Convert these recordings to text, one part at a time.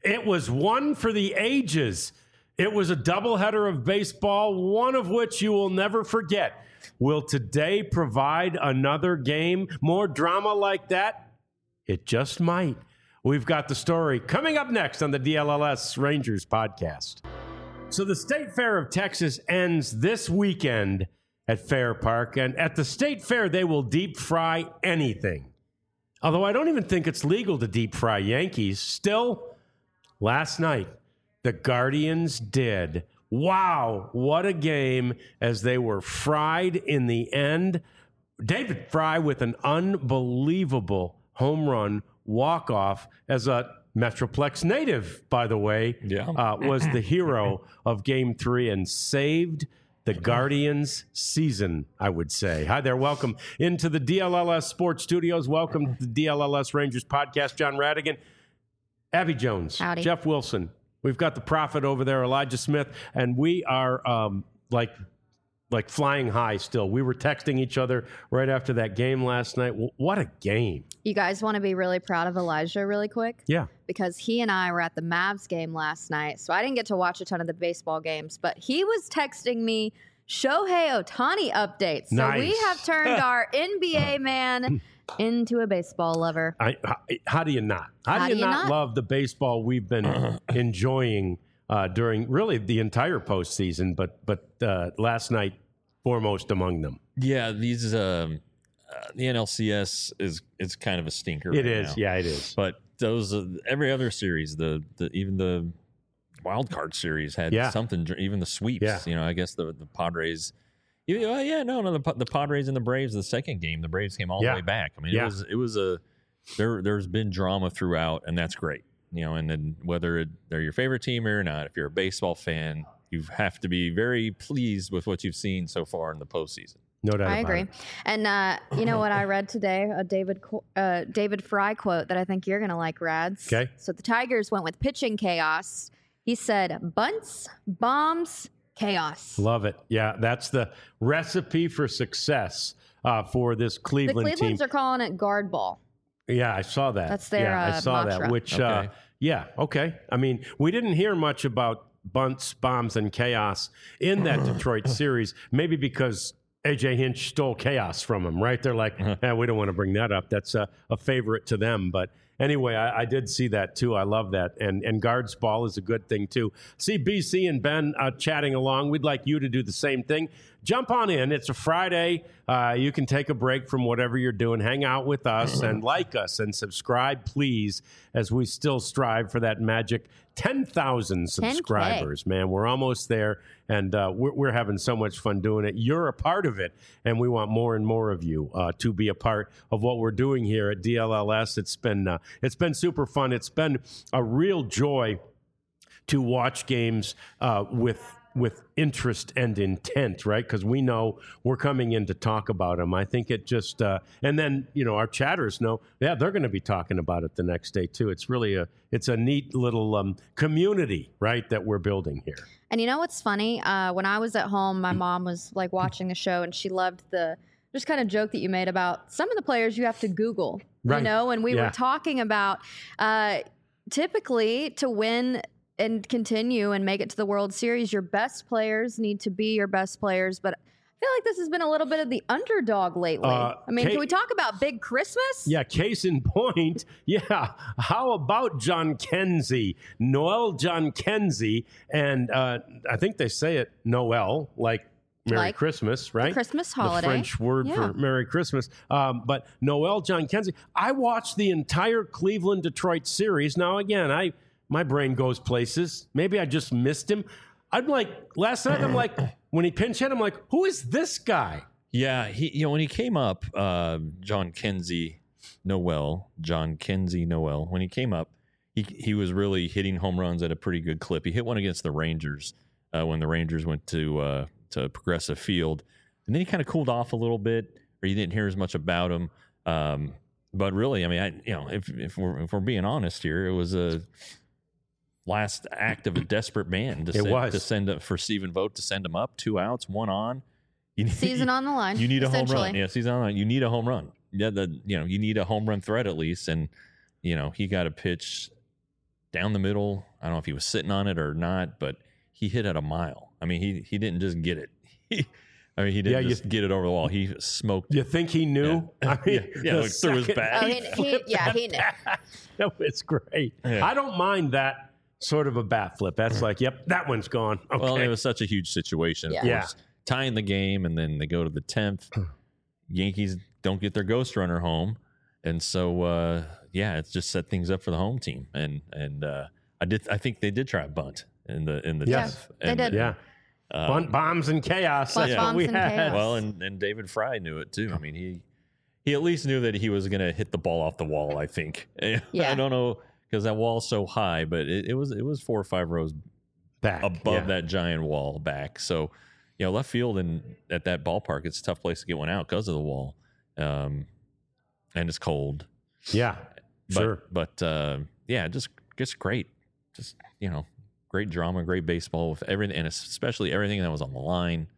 It was one for the ages. It was a doubleheader of baseball, one of which you will never forget. Will today provide another game? More drama like that? It just might. We've got the story coming up next on the DLLS Rangers podcast. So the State Fair of Texas ends this weekend at Fair Park, and at the State Fair, they will deep fry anything. Although I don't even think it's legal to deep fry Yankees. Still, last night, the Guardians did. Wow, what a game as they were fried in the end. David Fry with an unbelievable home run walk-off as a Metroplex native, by the way, was the hero of Game 3 and saved the Guardians season, I would say. Hi there. Welcome into the DLLS Sports Studios. Welcome to the DLLS Rangers podcast. John Radigan, Abby Jones, Howdy. Jeff Wilson. We've got the prophet over there, Elijah Smith, and we are like flying high still. We were texting each other right after that game last night. What a game. You guys want to be really proud of Elijah really quick? Yeah. Because he and I were at the Mavs game last night, so I didn't get to watch a ton of the baseball games, but he was texting me Shohei Ohtani updates. So Nice. we have turned our NBA man into a baseball lover. How do you not? How do you not love the baseball we've been enjoying during really the entire postseason, but last night foremost among them? Yeah, these the NLCS is kind of a stinker. It right is, now. yeah, it is. But those every other series, even the wild card series had something. Even the sweeps, I guess the Padres. The Padres and the Braves. The second game, the Braves came all the way back. I mean, it was there's been drama throughout, and that's great. And then whether they're your favorite team or not, if you're a baseball fan, you have to be very pleased with what you've seen so far in the postseason. No doubt. I agree. And you know what I read today? A David Fry quote that I think you're going to like, Rads. Okay. So the Tigers went with pitching chaos. He said, bunts, bombs, chaos. Love it. Yeah, that's the recipe for success for this Cleveland The Clevelands team. are calling it guard ball. Yeah, I saw that. That's their I saw mantra. that. Which, Okay. I mean, we didn't hear much about bunts, bombs, and chaos in that Detroit series. Maybe because AJ Hinch stole chaos from him, right? They're like, we don't want to bring that up. That's a favorite to them. But anyway, I did see that too. I love that. And guards ball is a good thing too. See BC and Ben chatting along. We'd like you to do the same thing. Jump on in. It's a Friday. You can take a break from whatever you're doing. Hang out with us and like us and subscribe, please, as we still strive for that magic 10,000 subscribers. 10K. Man, we're almost there, and we're having so much fun doing it. You're a part of it, and we want more and more of you to be a part of what we're doing here at DLLS. It's been super fun. It's been a real joy to watch games with interest and intent, right? Because we know we're coming in to talk about them. I think it just, and then, our chatters know, they're going to be talking about it the next day too. It's really it's a neat little community, right, that we're building here. And you know what's funny? When I was at home, my mom was like watching the show, and she loved the just kind of joke that you made about some of the players you have to Google, Right. and we were talking about typically to win and continue and make it to the World Series, your best players need to be your best players. But I feel like this has been a little bit of the underdog lately. Can we talk about Big Christmas? Yeah, case in point. Yeah, how about John Kenzie, Noel John Kenzie, and I think they say it Noel, like Merry Christmas, right? The Christmas holiday. The French word for Merry Christmas. But Noel John Kenzie. I watched the entire Cleveland-Detroit series. Now, again, my brain goes places. Maybe I just missed him. I'm like, last night, I'm like, when he pinch hit, I'm like, who is this guy? Yeah, when he came up, John Kenzie Noel, when he came up, he was really hitting home runs at a pretty good clip. He hit one against the Rangers when the Rangers went to Progressive Field, and then he kind of cooled off a little bit, or you didn't hear as much about him. But really, I mean, if we're being honest here, it was a last act of a desperate man to send for Stephen Vogt to send him up, 2 outs, 1 on. Season on the line. You need a home run. Yeah, season on the line. You need a home run. Yeah, you need a home run threat at least, and he got a pitch down the middle. I don't know if he was sitting on it or not, but he hit at a mile. I mean, he didn't just get it. He didn't just get it over the wall. He smoked. You think he knew? Yeah. I mean, Like through his back. Oh, he knew. No, it's great. Yeah. I don't mind that sort of a bat flip. That's like, yep, that one's gone. Okay. Well, it was such a huge situation. Of course, tying the game, and then they go to the 10th. Yankees don't get their ghost runner home, and so it just set things up for the home team. And I think they did try a bunt in the 10th. They did. Yeah. Bunt, bombs, and chaos. That's what we had. Chaos. Well, and David Fry knew it too. I mean, he at least knew that he was going to hit the ball off the wall. I think. Yeah. I don't know because that wall's so high, but it was 4 or 5 rows back above that giant wall back. So, left field and at that ballpark, it's a tough place to get one out because of the wall, and it's cold. Yeah, sure. But just great. Just great drama, great baseball with everything, and especially everything that was on the line.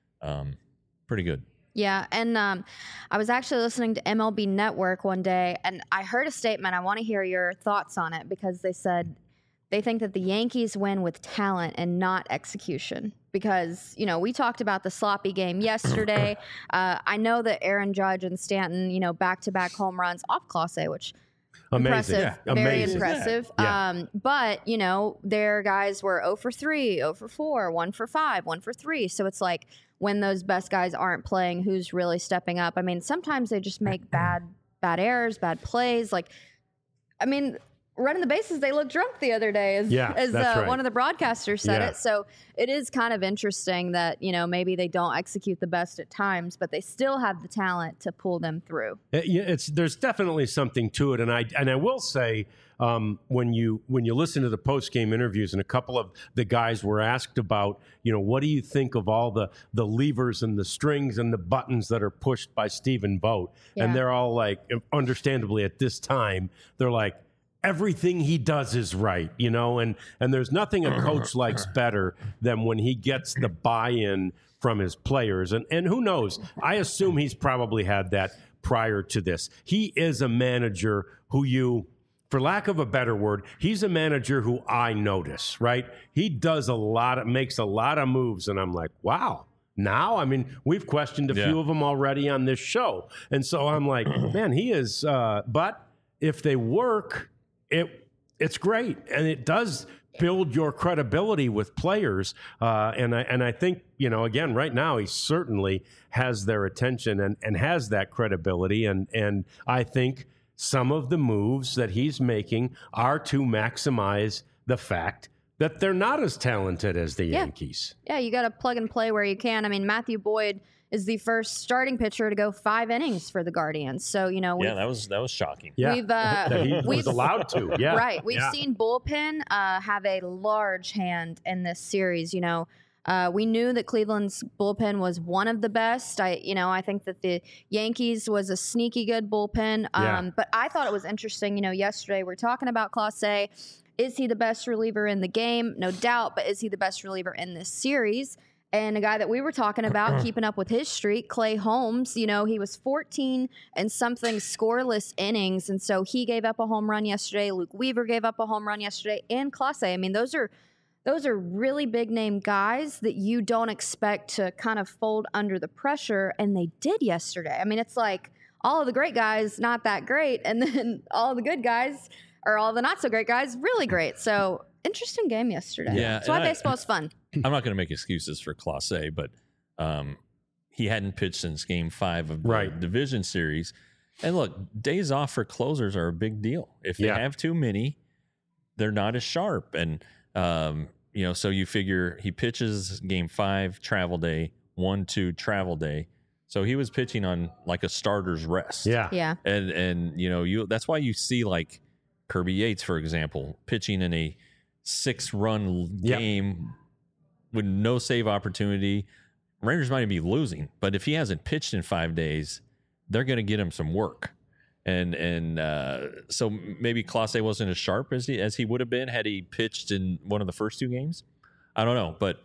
Pretty good. Yeah, and I was actually listening to MLB Network one day, and I heard a statement. I want to hear your thoughts on it because they said they think that the Yankees win with talent and not execution. Because, we talked about the sloppy game yesterday. I know that Aaron Judge and Stanton, back-to-back home runs off Clase, which amazing. Impressive. Very impressive. Yeah. But, their guys were 0 for 3, 0 for 4, 1 for 5, 1 for 3. So it's like when those best guys aren't playing, who's really stepping up? I mean, sometimes they just make bad errors, bad plays. Like, I mean, running the bases, they looked drunk the other day, as right. one of the broadcasters said it. So it is kind of interesting that, maybe they don't execute the best at times, but they still have the talent to pull them through. There's definitely something to it. And I will say, when you listen to the post-game interviews, and a couple of the guys were asked about, what do you think of all the levers and the strings and the buttons that are pushed by Stephen Vogt? Yeah. And they're all like, understandably at this time, they're like, everything he does is right, and there's nothing a coach likes better than when he gets the buy-in from his players. And who knows? I assume he's probably had that prior to this. He is a manager who for lack of a better word, he's a manager who I notice, right? He does makes a lot of moves, and I'm like, wow. Now, I mean, we've questioned a few of them already on this show. And so I'm like, man, he is, but if they work, it's great, and it does build your credibility with players. And I think, again, right now he certainly has their attention and has that credibility. And I think some of the moves that he's making are to maximize the fact that they're not as talented as the Yankees. Yeah, you got to plug and play where you can. I mean, Matthew Boyd is the first starting pitcher to go 5 innings for the Guardians. So, that was shocking. Yeah, he was allowed to. Yeah, right. We've seen bullpen have a large hand in this series. We knew that Cleveland's bullpen was one of the best. I think that the Yankees was a sneaky good bullpen. But I thought it was interesting. Yesterday we're talking about Clase. Is he the best reliever in the game? No doubt. But is he the best reliever in this series? And a guy that we were talking about, keeping up with his streak, Clay Holmes, he was 14 and something scoreless innings. And so he gave up a home run yesterday. Luke Weaver gave up a home run yesterday. And Clase. I mean, those are really big name guys that you don't expect to kind of fold under the pressure. And they did yesterday. I mean, it's like all of the great guys, not that great. And then all of the good guys, or all the not so great guys, really great. So interesting game yesterday. Yeah, that's why baseball's fun. I'm not going to make excuses for Clase, but he hadn't pitched since Game 5 of the division series. And look, days off for closers are a big deal. If they have too many, they're not as sharp. And so you figure he pitches Game 5 travel day, 1-2 travel day. So he was pitching on like a starter's rest. Yeah. And that's why you see like Kirby Yates, for example, pitching in a 6-run game with no save opportunity. Rangers might be losing, but if he hasn't pitched in 5 days, they're going to get him some work. And so maybe Clase wasn't as sharp as he would have been had he pitched in one of the first 2 games. I don't know, but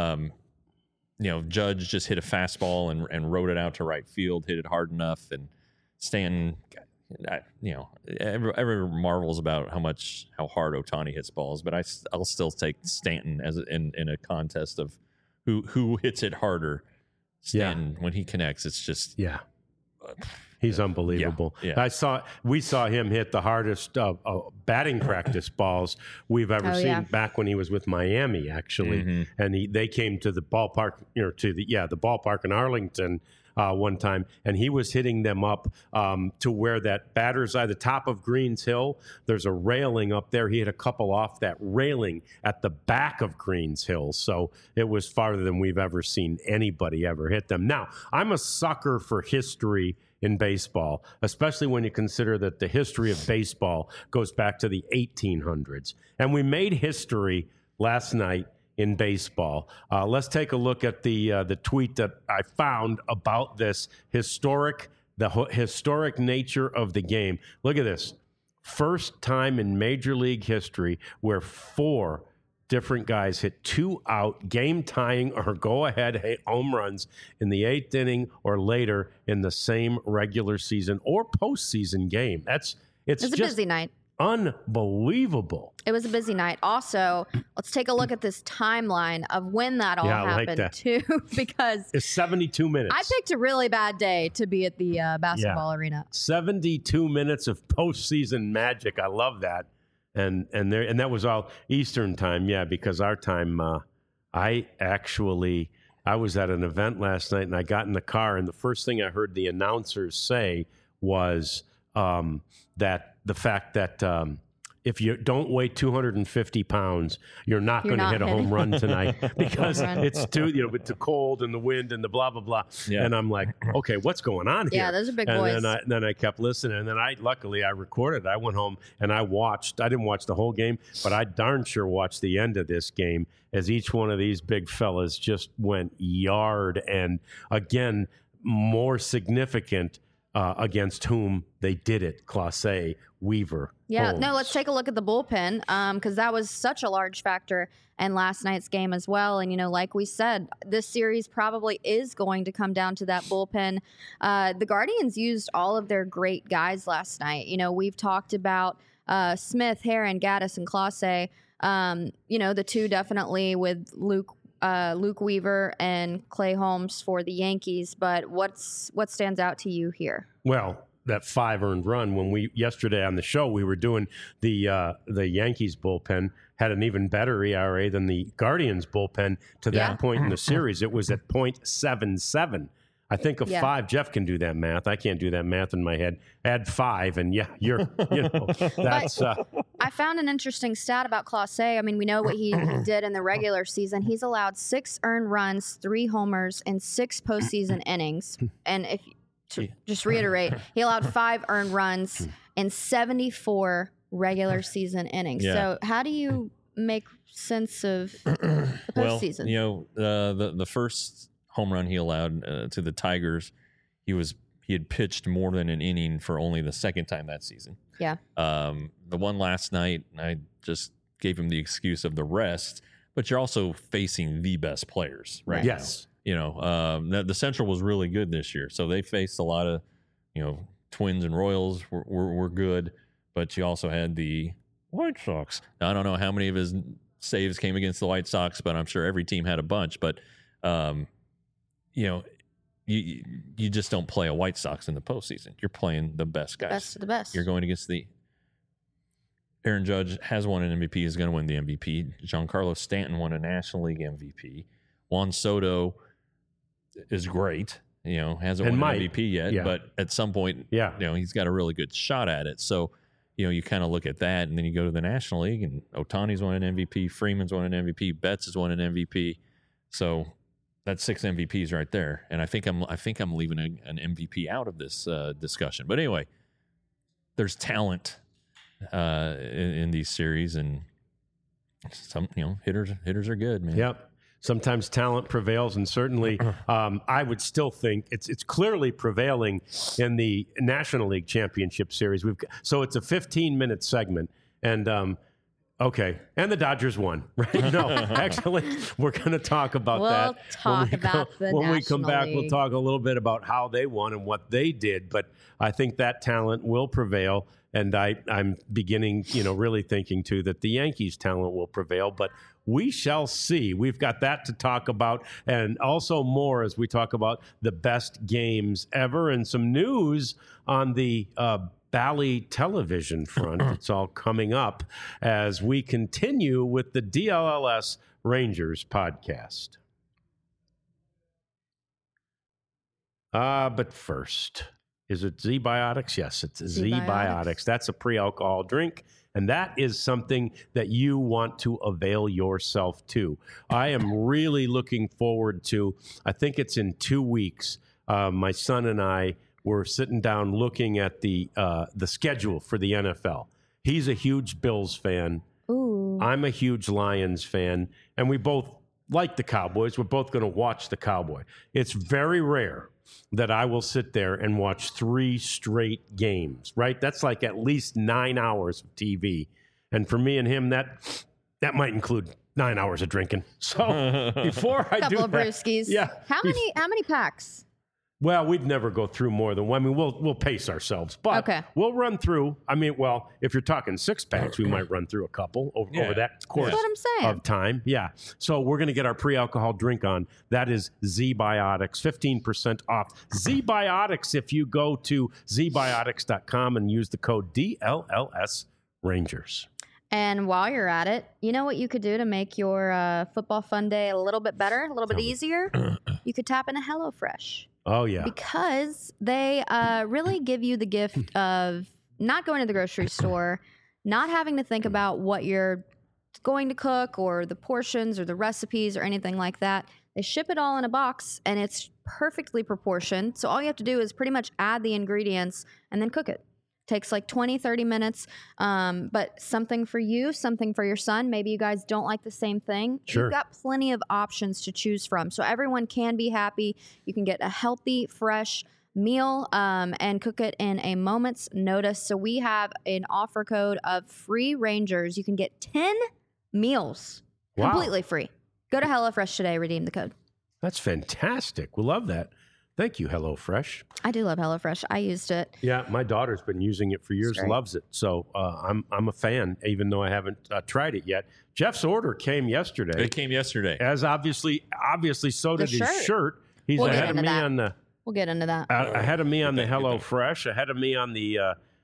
Judge just hit a fastball and rode it out to right field, hit it hard enough, and Stanton, everyone marvels about how hard Ohtani hits balls, but I'll still take Stanton as in a contest of who hits it harder. Stanton, when he connects, it's just he's unbelievable. Yeah. We saw him hit the hardest batting practice balls we've ever seen back when he was with Miami, actually. And they came to the ballpark, to the ballpark in Arlington one time, and he was hitting them up to where that batter's eye, the top of Greens Hill, there's a railing up there. He hit a couple off that railing at the back of Greens Hill. So it was farther than we've ever seen anybody ever hit them. Now, I'm a sucker for history in baseball, especially when you consider that the history of baseball goes back to the 1800s. And we made history last night in baseball. Let's take a look at the tweet that I found about this historic nature of the game. Look at this. First time in Major League history where 4 different guys hit 2 out, game-tying or go-ahead home runs in the 8th inning or later in the same regular season or postseason game. It's a busy night. Unbelievable. It was a busy night. Also, let's take a look at this timeline of when that all happened, too, because it's 72 minutes. I picked a really bad day to be at the basketball arena. 72 minutes of postseason magic. I love that. And that was all Eastern time, because our time, I was at an event last night, and I got in the car, and the first thing I heard the announcers say was that the fact that if you don't weigh 250 pounds, you're not going to hit a home run tonight because it's too, with the cold and the wind and the blah, blah, blah. Yeah. And I'm like, okay, what's going on here? Yeah, those are big boys. And then I kept listening. And then luckily I recorded. I went home and I watched. I didn't watch the whole game, but I darn sure watched the end of this game as each one of these big fellas just went yard. And again, more significant against whom they did it, Clase, Weaver, Holmes. No, let's take a look at the bullpen because that was such a large factor in last night's game as well. And, like we said, this series probably is going to come down to that bullpen. The Guardians used all of their great guys last night. We've talked about Smith, Herron, Gaddis, and Clase. The two definitely with Luke Weaver and Clay Holmes for the Yankees, but what stands out to you here? Well, that 5 earned run when yesterday on the show we were doing the Yankees bullpen had an even better ERA than the Guardians bullpen to that point in the series. It was at .77. I think of 5. Jeff can do that math. I can't do that math in my head. Add 5, and you're that's. I found an interesting stat about Clase. I mean, we know what he did in the regular season. He's allowed 6 earned runs, 3 homers, and 6 postseason innings. And just reiterate, he allowed 5 earned runs and 74 regular season innings. Yeah. So how do you make sense of the postseason? Well, the first home run he allowed to the Tigers, he had pitched more than an inning for only the second time that season. Yeah. The one last night, I just gave him the excuse of the rest, but you're also facing the best players, right? Yes. The Central was really good this year, so they faced a lot of, Twins and Royals were good, but you also had the White Sox. Now, I don't know how many of his saves came against the White Sox, but I'm sure every team had a bunch. But you just don't play a White Sox in the postseason. You're playing the best guys. Best of the best. You're going against Aaron Judge has won an MVP, is going to win the MVP. Giancarlo Stanton won a National League MVP. Juan Soto is great. Hasn't won an MVP yet, but at some point, he's got a really good shot at it. So, you kind of look at that, and then you go to the National League, and Ohtani's won an MVP, Freeman's won an MVP, Betts has won an MVP. So that's 6 MVPs right there, and I think I'm leaving an MVP out of this discussion. But anyway, there's talent in these series, and some hitters are good, man. Yep. Sometimes talent prevails, and certainly I would still think it's clearly prevailing in the National League Championship Series. So it's a 15-minute segment, and Okay, and the Dodgers won, right? No, actually, we're going to talk about We'll that. talk about the when we come National back. We'll League. talk a little bit about how they won and what they did. But I think that talent will prevail, and I'm beginning, really thinking too that the Yankees' talent will prevail. But we shall see. We've got that to talk about, and also more as we talk about the best games ever, and some news on the Bally television front. It's all coming up as we continue with the DLLS Rangers podcast. But first, is it Z-Biotics? Yes, it's Z-Biotics. That's a pre-alcohol drink, and that is something that you want to avail yourself to. I am really looking forward to, I think it's in 2 weeks, my son and I were sitting down looking at the schedule for the NFL. He's a huge Bills fan. Ooh. I'm a huge Lions fan, and we both like the Cowboys. We're both going to watch the Cowboy. It's very rare that I will sit there and watch 3 straight games, right? That's like at least 9 hours of TV. And for me and him, that might include 9 hours of drinking. So before I do Couple of that, brewskis. yeah. How many packs? Well, we'd never go through more than one. I mean, we'll pace ourselves, but Okay. we'll run through. I mean, well, if you're talking 6 packs, we might run through a couple over that course That's what I'm saying. of time. Yeah. So we're going to get our pre-alcohol drink on. That is Z-Biotics, 15% off. Z-Biotics, if you go to zbiotics.com and use the code DLLS Rangers. And while you're at it, you know what you could do to make your football fun day a little bit better, a little bit easier? You could tap into HelloFresh. Oh, yeah. Because they really give you the gift of not going to the grocery store, not having to think about what you're going to cook or the portions or the recipes or anything like that. They ship it all in a box, and it's perfectly proportioned. So all you have to do is pretty much add the ingredients and then cook it. Takes like 20, 30 minutes, but something for you, something for your son. Maybe you guys don't like the same thing. Sure. You've got plenty of options to choose from. So everyone can be happy. You can get a healthy, fresh meal and cook it in a moment's notice. So we have an offer code of free Rangers. You can get 10 meals Wow. completely free. Go to HelloFresh today, redeem the code. That's fantastic. We love that. Thank you, HelloFresh. I do love HelloFresh. I used it. Yeah, my daughter's been using it for years, great. loves it. So I'm a fan, even though I haven't tried it yet. Jeff's order came yesterday. It came yesterday. As obviously, so did his shirt. shirt. He's We'll get ahead of into me that. on the We'll get into that. ahead of me on the HelloFresh, ahead of me on the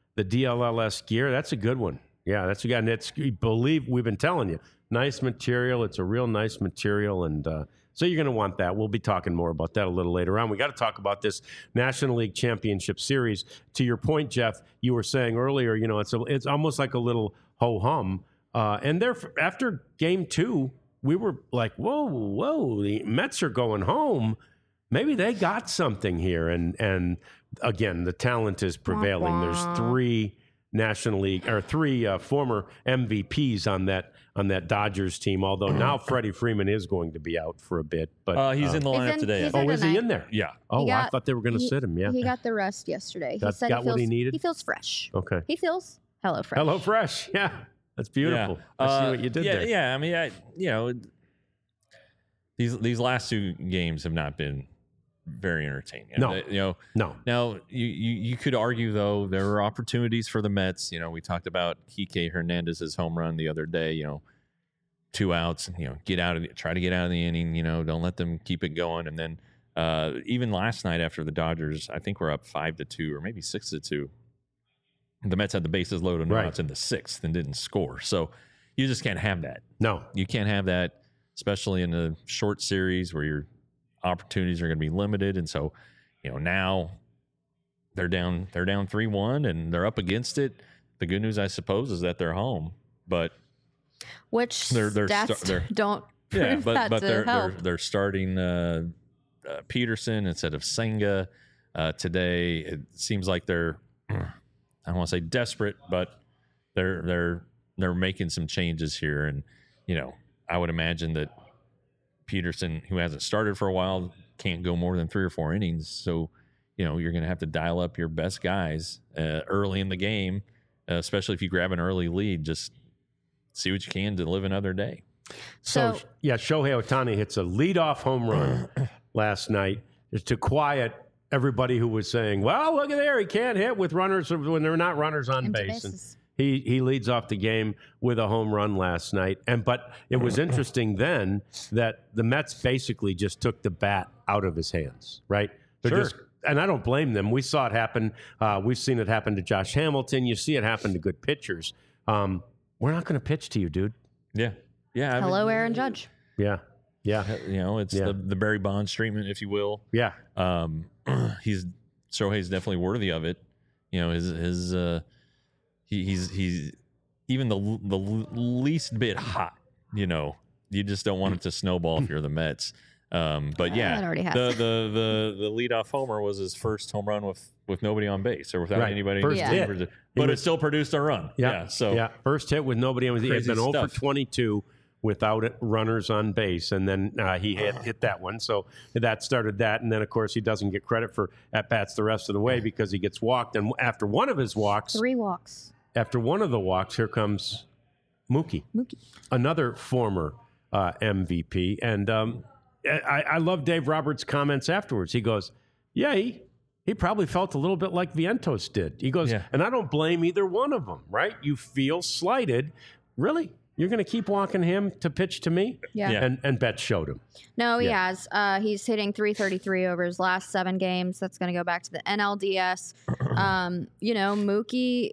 DLLS gear. That's a good one. Yeah, that's a good. And it's believe we've been telling you, nice material. It's a real nice material, and so you're going to want that. We'll be talking more about that a little later on. We got to talk about this National League Championship Series. To your point, Jeff, you were saying earlier, it's almost like a little ho-hum. And there, after Game 2, we were like, whoa, the Mets are going home. Maybe they got something here. And again, the talent is prevailing. There's 3 National League or 3 former MVPs on that Dodgers team. Although now Freddie Freeman is going to be out for a bit, but He's in the lineup today. he's I in think. is he in there? Yeah. Oh, He I got- thought they were going to sit him. Yeah. He got the rest yesterday. Got- he said got he feels, what he needed? He feels fresh. Okay. He feels HelloFresh. HelloFresh. Yeah, that's beautiful. I see what you did there. Yeah, I mean, these last 2 games have not been very entertaining. No. No. Now you could argue though there were opportunities for the Mets. We talked about Kike Hernandez's home run the other day. 2 outs. Try to get out of the inning. Don't let them keep it going. And then even last night after the Dodgers, I think we're up 5-2 or maybe 6-2. The Mets had the bases loaded, no outs in the 6th and didn't score. So you just can't have that. No. You can't have that, especially in a short series where your opportunities are going to be limited. And so, now they're down 3-1 and they're up against it. The good news, I suppose, is that they're home, but Which stats don't prove that but to help. they're starting Peterson instead of Senga today. It seems like they're I don't want to say desperate, but they're making some changes here, and I would imagine that Peterson, who hasn't started for a while, can't go more than 3 or 4 innings. So, you're going to have to dial up your best guys early in the game, especially if you grab an early lead. Just see what you can to live another day. So yeah, Shohei Ohtani hits a leadoff home run last night to quiet everybody who was saying, well, look at there, he can't hit with runners when there are not runners on Empty base. bases. And he leads off the game with a home run last night. But it was interesting then that the Mets basically just took the bat out of his hands, right? Sure. And I don't blame them. We saw it happen. We've seen it happen to Josh Hamilton. You see it happen to good pitchers. We're not going to pitch to you, dude. Yeah. Yeah. Hello, Aaron Judge. Yeah. Yeah. You know, it's the Barry Bonds treatment, if you will. Yeah. Shohei's definitely worthy of it. You know, he's even the least bit hot. You know, you just don't want it to snowball if you're the Mets. But yeah, That already has. the leadoff homer was his first home run with nobody on base or without Right. anybody. First hit. But it still produced a run. Yeah. So first hit with nobody on. He had Crazy been 0 for stuff. 22 without runners on base, and then he hit that one. So that started that, and then of course he doesn't get credit for at bats the rest of the way because he gets walked. And after one of his walks, 3 walks. after one of the walks, here comes Mookie, another former MVP, and I love Dave Roberts' comments afterwards. He goes, "Yeah, he probably felt a little bit like Vientos did." He goes, Yeah. and I don't blame either one of them, right? You feel slighted. Really? You're going to keep walking him to pitch to me? Yeah. Yeah. And Betts showed him. No, he Yeah. has. He's hitting 333 over his last 7 games. That's going to go back to the NLDS. You know, Mookie,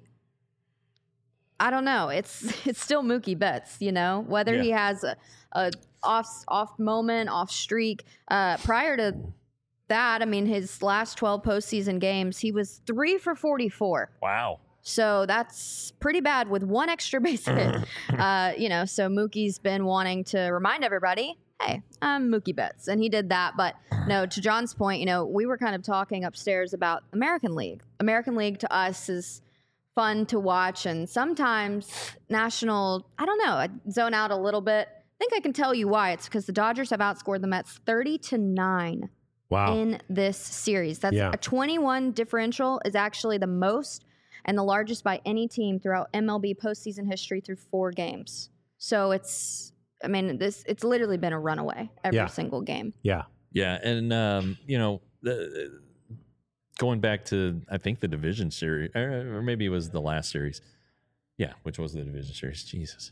I don't know. It's still Mookie Betts, you know, whether he has a off moment, off streak. Prior to that, I mean, his last 12 postseason games, he was 3 for 44. wow. So that's pretty bad with 1 extra base hit. You know, so Mookie's been wanting to remind everybody, hey, I'm Mookie Betts. And he did that. But no, to John's point, you know, we were kind of talking upstairs about American League. American League to us is fun to watch. And sometimes national, I don't know, I zone out a little bit. I think I can tell you why. It's because the Dodgers have outscored the Mets 30-9 Wow. in this series. That's Yeah. a 21 differential is actually the most and the largest by any team throughout MLB postseason history through 4 games. So it's literally been a runaway every single game. Yeah. Yeah, and you know, going back to I think the division series, or maybe it was the last series. Yeah, which was the division series. Jesus.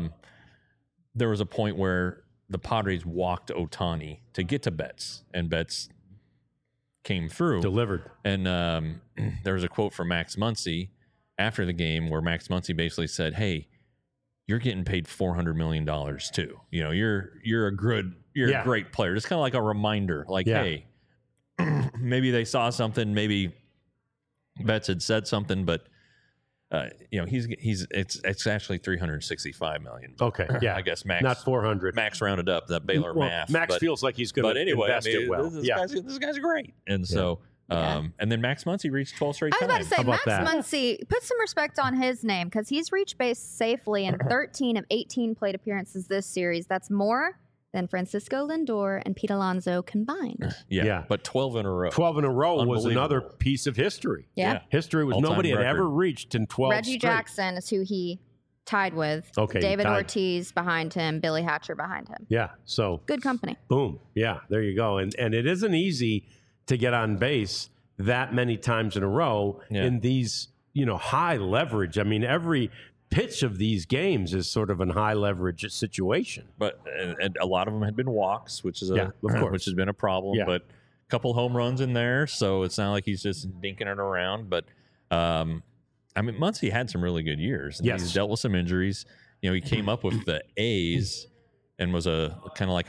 There was a point where the Padres walked Ohtani to get to Betts, and Betts came through. Delivered. And there was a quote from Max Muncy after the game where Max Muncy basically said, "Hey, you're getting paid $400 million too. You know, you're a great player." Just kind of like a reminder, like, hey, maybe they saw something, maybe Betts had said something, but you know, it's actually $365 million. Okay. Yeah. I guess Max, not 400. Max rounded up that Baylor math. Max but, feels like he's going but to anyway, invest it well. This guy's great, and so. And then Max Muncy reached 12 straight I was times. about to say, How about Max that? Muncy, put some respect on his name because he's reached base safely in 13 of 18 plate appearances this series. That's more than Francisco Lindor and Pete Alonso combined. Yeah. But 12 in a row. 12 in a row was another Unbelievable. piece of history. Yeah. History was All-time nobody had record. ever reached in 12 Reggie straight. Jackson is who he tied with. Okay, he David tied. Ortiz behind him, Billy Hatcher behind him. Yeah. So Good company. boom. Yeah, there you go. And it isn't easy to get on base that many times in a row in these, you know, high leverage. I mean, every pitch of these games is sort of a high leverage situation. But and a lot of them had been walks, which is of course. which has been a problem. Yeah. But a couple home runs in there, so it's not like he's just dinking it around. But I mean, Muncy had some really good years. And Yes. he's dealt with some injuries. You know, he came up with the A's and was a kind of like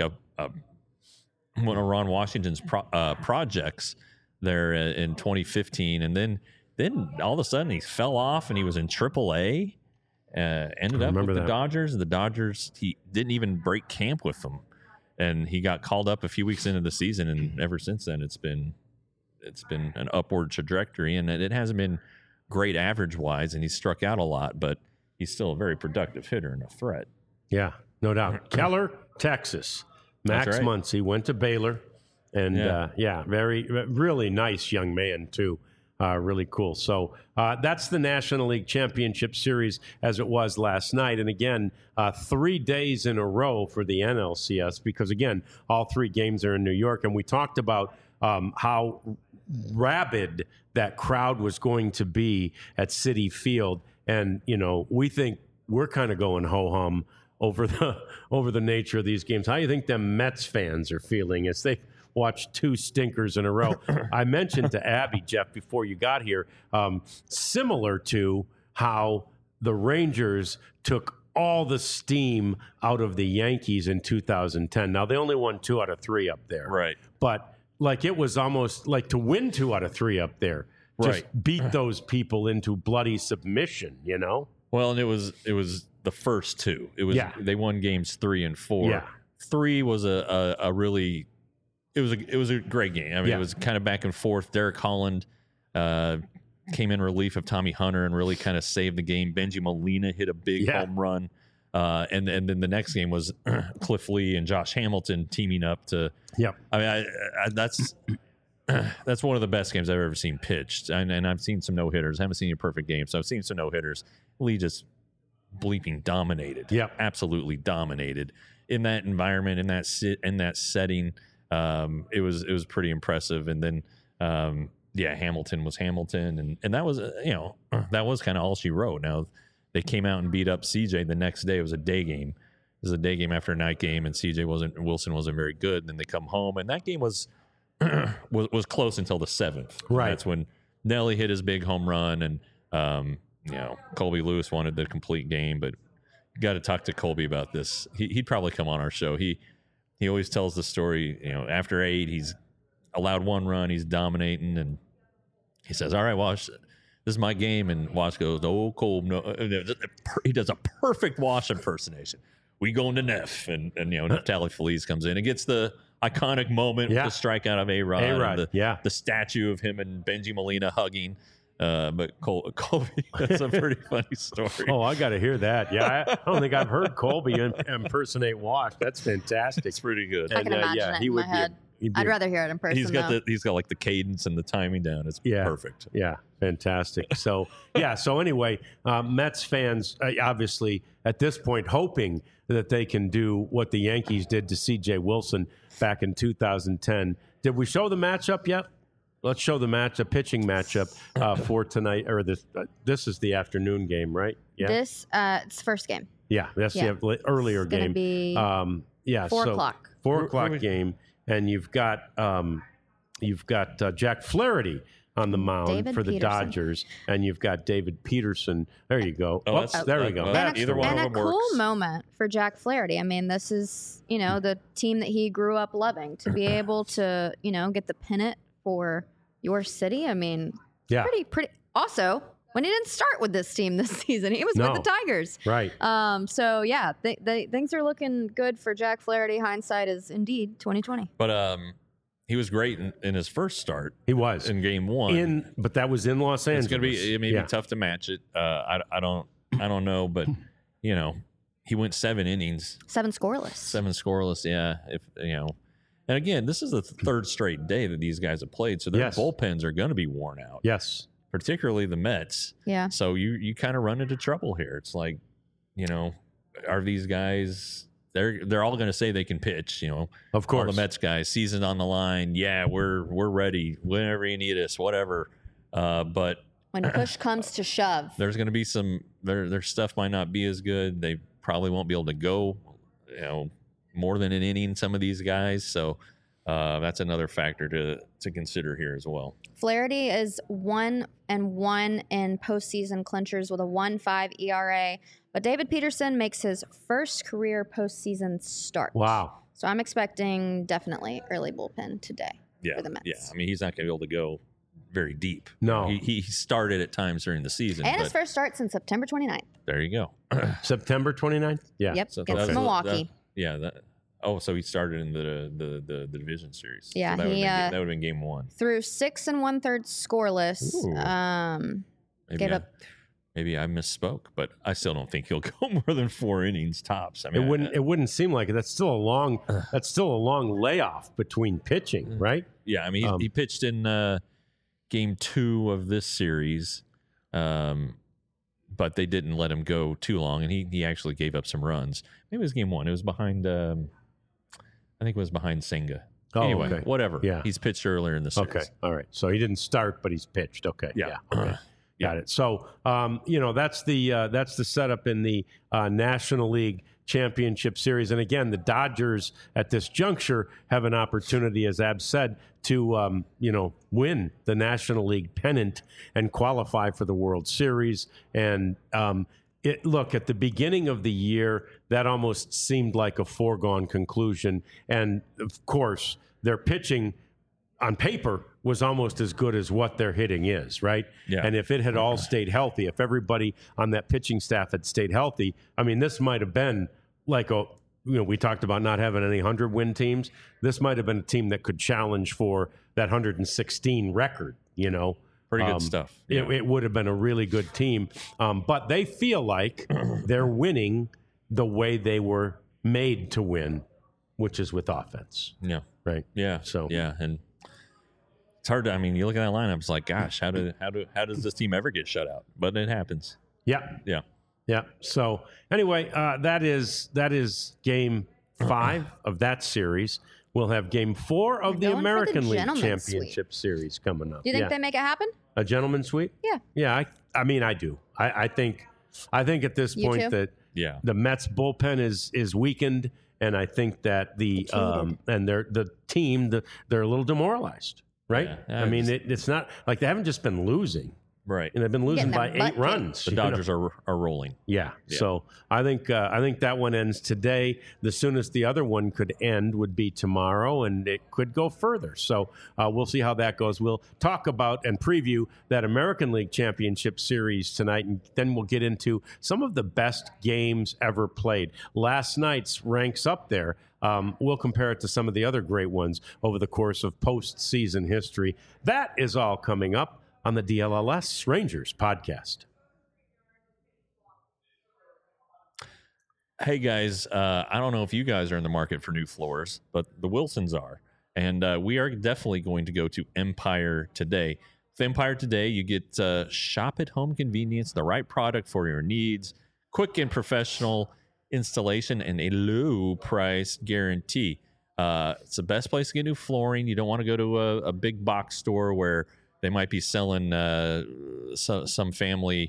one of Ron Washington's projects there in 2015, and then all of a sudden he fell off and he was in AAA. Ended up with the Dodgers. The Dodgers, he didn't even break camp with them, and he got called up a few weeks into the season, and ever since then it's been an upward trajectory, and it hasn't been great average wise, and he's struck out a lot, but he's still a very productive hitter and a threat. Yeah, no doubt. Keller, Texas. Max That's right. Muncy went to Baylor, and really nice young man too. Really cool. So that's the National League Championship Series as it was last night. And again, 3 days in a row for the NLCS because, again, all 3 games are in New York. And we talked about how rabid that crowd was going to be at Citi Field. And, we think we're kind of going ho-hum over the nature of these games. How do you think them Mets fans are feeling as they watched 2 stinkers in a row? I mentioned to Abby, Jeff, before you got here, similar to how the Rangers took all the steam out of the Yankees in 2010. Now, they only won 2 out of 3 up there. Right. But it was almost like to win 2 out of 3 up there. Just beat those people into bloody submission, Well, and it was the first 2. It was they won games 3 and 4. Yeah. 3 was a really it was a great game. I mean, it was kind of back and forth. Derek Holland came in relief of Tommy Hunter and really kind of saved the game. Benji Molina hit a big home run. And then the next game was Cliff Lee and Josh Hamilton teaming up to. Yep. I mean, that's one of the best games I've ever seen pitched. And I've seen some no-hitters. I haven't seen a perfect game, so I've seen some no-hitters. Lee just bleeping dominated. Yep. Absolutely dominated in that environment, in that setting. It was pretty impressive. And then, Hamilton was Hamilton. And that was, that was kind of all she wrote. Now, they came out and beat up CJ the next day. It was a day game. It was a day game after a night game, and Wilson wasn't very good. And then they come home, and that game was close until the 7th. Right. That's when Nelly hit his big home run, and Colby Lewis wanted the complete game. But you got to talk to Colby about this. He'd probably come on our show. He always tells the story. After 8, he's allowed 1 run. He's dominating, and he says, "All right, Wash, this is my game." And Wash goes, "Oh, Colby, no." He does a perfect Wash impersonation. We going to Neff, and Neftali Feliz comes in and gets the iconic moment with the strikeout of A-Rod. The statue of him and Benji Molina hugging. But Colby, that's a pretty funny story. Oh, I got to hear that. Yeah, I don't think I've heard Colby impersonate Wash. That's fantastic. It's pretty good. I can imagine it in my head. I'd rather hear it in person. He's got like the cadence and the timing down. It's perfect. Yeah, fantastic. So anyway, Mets fans obviously at this point hoping that they can do what the Yankees did to C.J. Wilson back in 2010. Did we show the matchup yet? Let's show the pitching matchup for tonight, or this. This is the afternoon game, right? Yeah. This it's first game. Yeah, that's the earlier game. Be 4 o'clock. 4 o'clock game, and you've got Jack Flaherty on the mound David for the Peterson. Dodgers, and you've got David Peterson. There you go. Oh, There we go. Either one and of a them cool works. moment for Jack Flaherty. I mean, this is the team that he grew up loving. To be able to get the pennant for your city. I mean, pretty. Also, when he didn't start with this team this season, he was with the Tigers. Right. So yeah, things are looking good for Jack Flaherty. Hindsight is indeed 2020. But he was great in his first start. He was in game 1. But that was in Los Angeles. It's gonna be. It may be tough to match it. I don't know, but he went 7 innings, 7 scoreless. 7 scoreless. Yeah, and again, this is the 3rd straight day that these guys have played, so their bullpens are going to be worn out. Yes, particularly the Mets. Yeah. So you kind of run into trouble here. It's like, are these guys? They're all going to say they can pitch. Of course, all the Mets guys, season on the line. Yeah, we're ready. Whenever you need us, whatever. But when push comes to shove, there's going to be some. Their stuff might not be as good. They probably won't be able to go. More than an inning, some of these guys. So that's another factor to consider here as well. Flaherty is 1-1 in postseason clinchers with a 1.5 ERA, but David Peterson makes his first career postseason start. Wow! So I'm expecting definitely early bullpen today for the Mets. Yeah, I mean he's not going to be able to go very deep. No, he started at times during the season, and his first start since September 29th. There you go. September 29th. Yeah. Yep. So Against Milwaukee. So he started in the division series. Yeah, so that would have been game 1. Through 6 1/3 scoreless. Maybe I misspoke, but I still don't think he'll go more than 4 innings tops. I mean, it wouldn't seem like it. That's still a long layoff between pitching, right? Yeah, I mean he pitched in game 2 of this series, but they didn't let him go too long, and he actually gave up some runs. Maybe it was game 1. It was behind, I think it was behind Senga. Oh, anyway, okay. whatever. Yeah. He's pitched earlier in the series. Okay. All right. So he didn't start, but he's pitched. Okay. Yeah. Okay. Got it. So, that's the setup in the National League Championship Series. And again, the Dodgers at this juncture have an opportunity, as Ab said, to, win the National League pennant and qualify for the World Series. And look, at the beginning of the year, that almost seemed like a foregone conclusion. And of course, their pitching on paper was almost as good as what their hitting is, right? Yeah. And if it had all stayed healthy, if everybody on that pitching staff had stayed healthy, I mean, this might have been like we talked about not having any 100-win teams. This might have been a team that could challenge for that 116 record, Pretty good stuff. Yeah. It would have been a really good team. But they feel like they're winning the way they were made to win, which is with offense. Yeah. Right. Yeah. So yeah, and it's hard to. I mean, you look at that lineup. It's like, gosh, how does this team ever get shut out? But it happens. Yeah. Yeah. Yeah. So anyway, that is Game 5 of that series. We'll have Game 4 of the They're going for the American League gentleman's Championship Series coming up. Do you think they make it happen? A gentleman's sweep? Yeah. Yeah. I mean, I do. I think at this You point too? that Yeah. the Mets bullpen is weakened, and I think that and the team they're a little demoralized, right? Yeah. I mean, it's not like they haven't just been losing, Right. and they've been losing by Getting their 8 butt runs. The you know? Dodgers are rolling. Yeah. Yeah. So I think that one ends today. The soonest the other one could end would be tomorrow, and it could go further. So we'll see how that goes. We'll talk about and preview that American League Championship Series tonight, and then we'll get into some of the best games ever played. Last night's ranks up there. We'll compare it to some of the other great ones over the course of postseason history. That is all coming up on the DLLS Rangers podcast. Hey guys, I don't know if you guys are in the market for new floors, but the Wilsons are, and we are definitely going to go to Empire today. With Empire today, you get shop at home convenience, the right product for your needs, quick and professional installation, and a low price guarantee. It's the best place to get new flooring. You don't want to go to a big box store where they might be selling some family,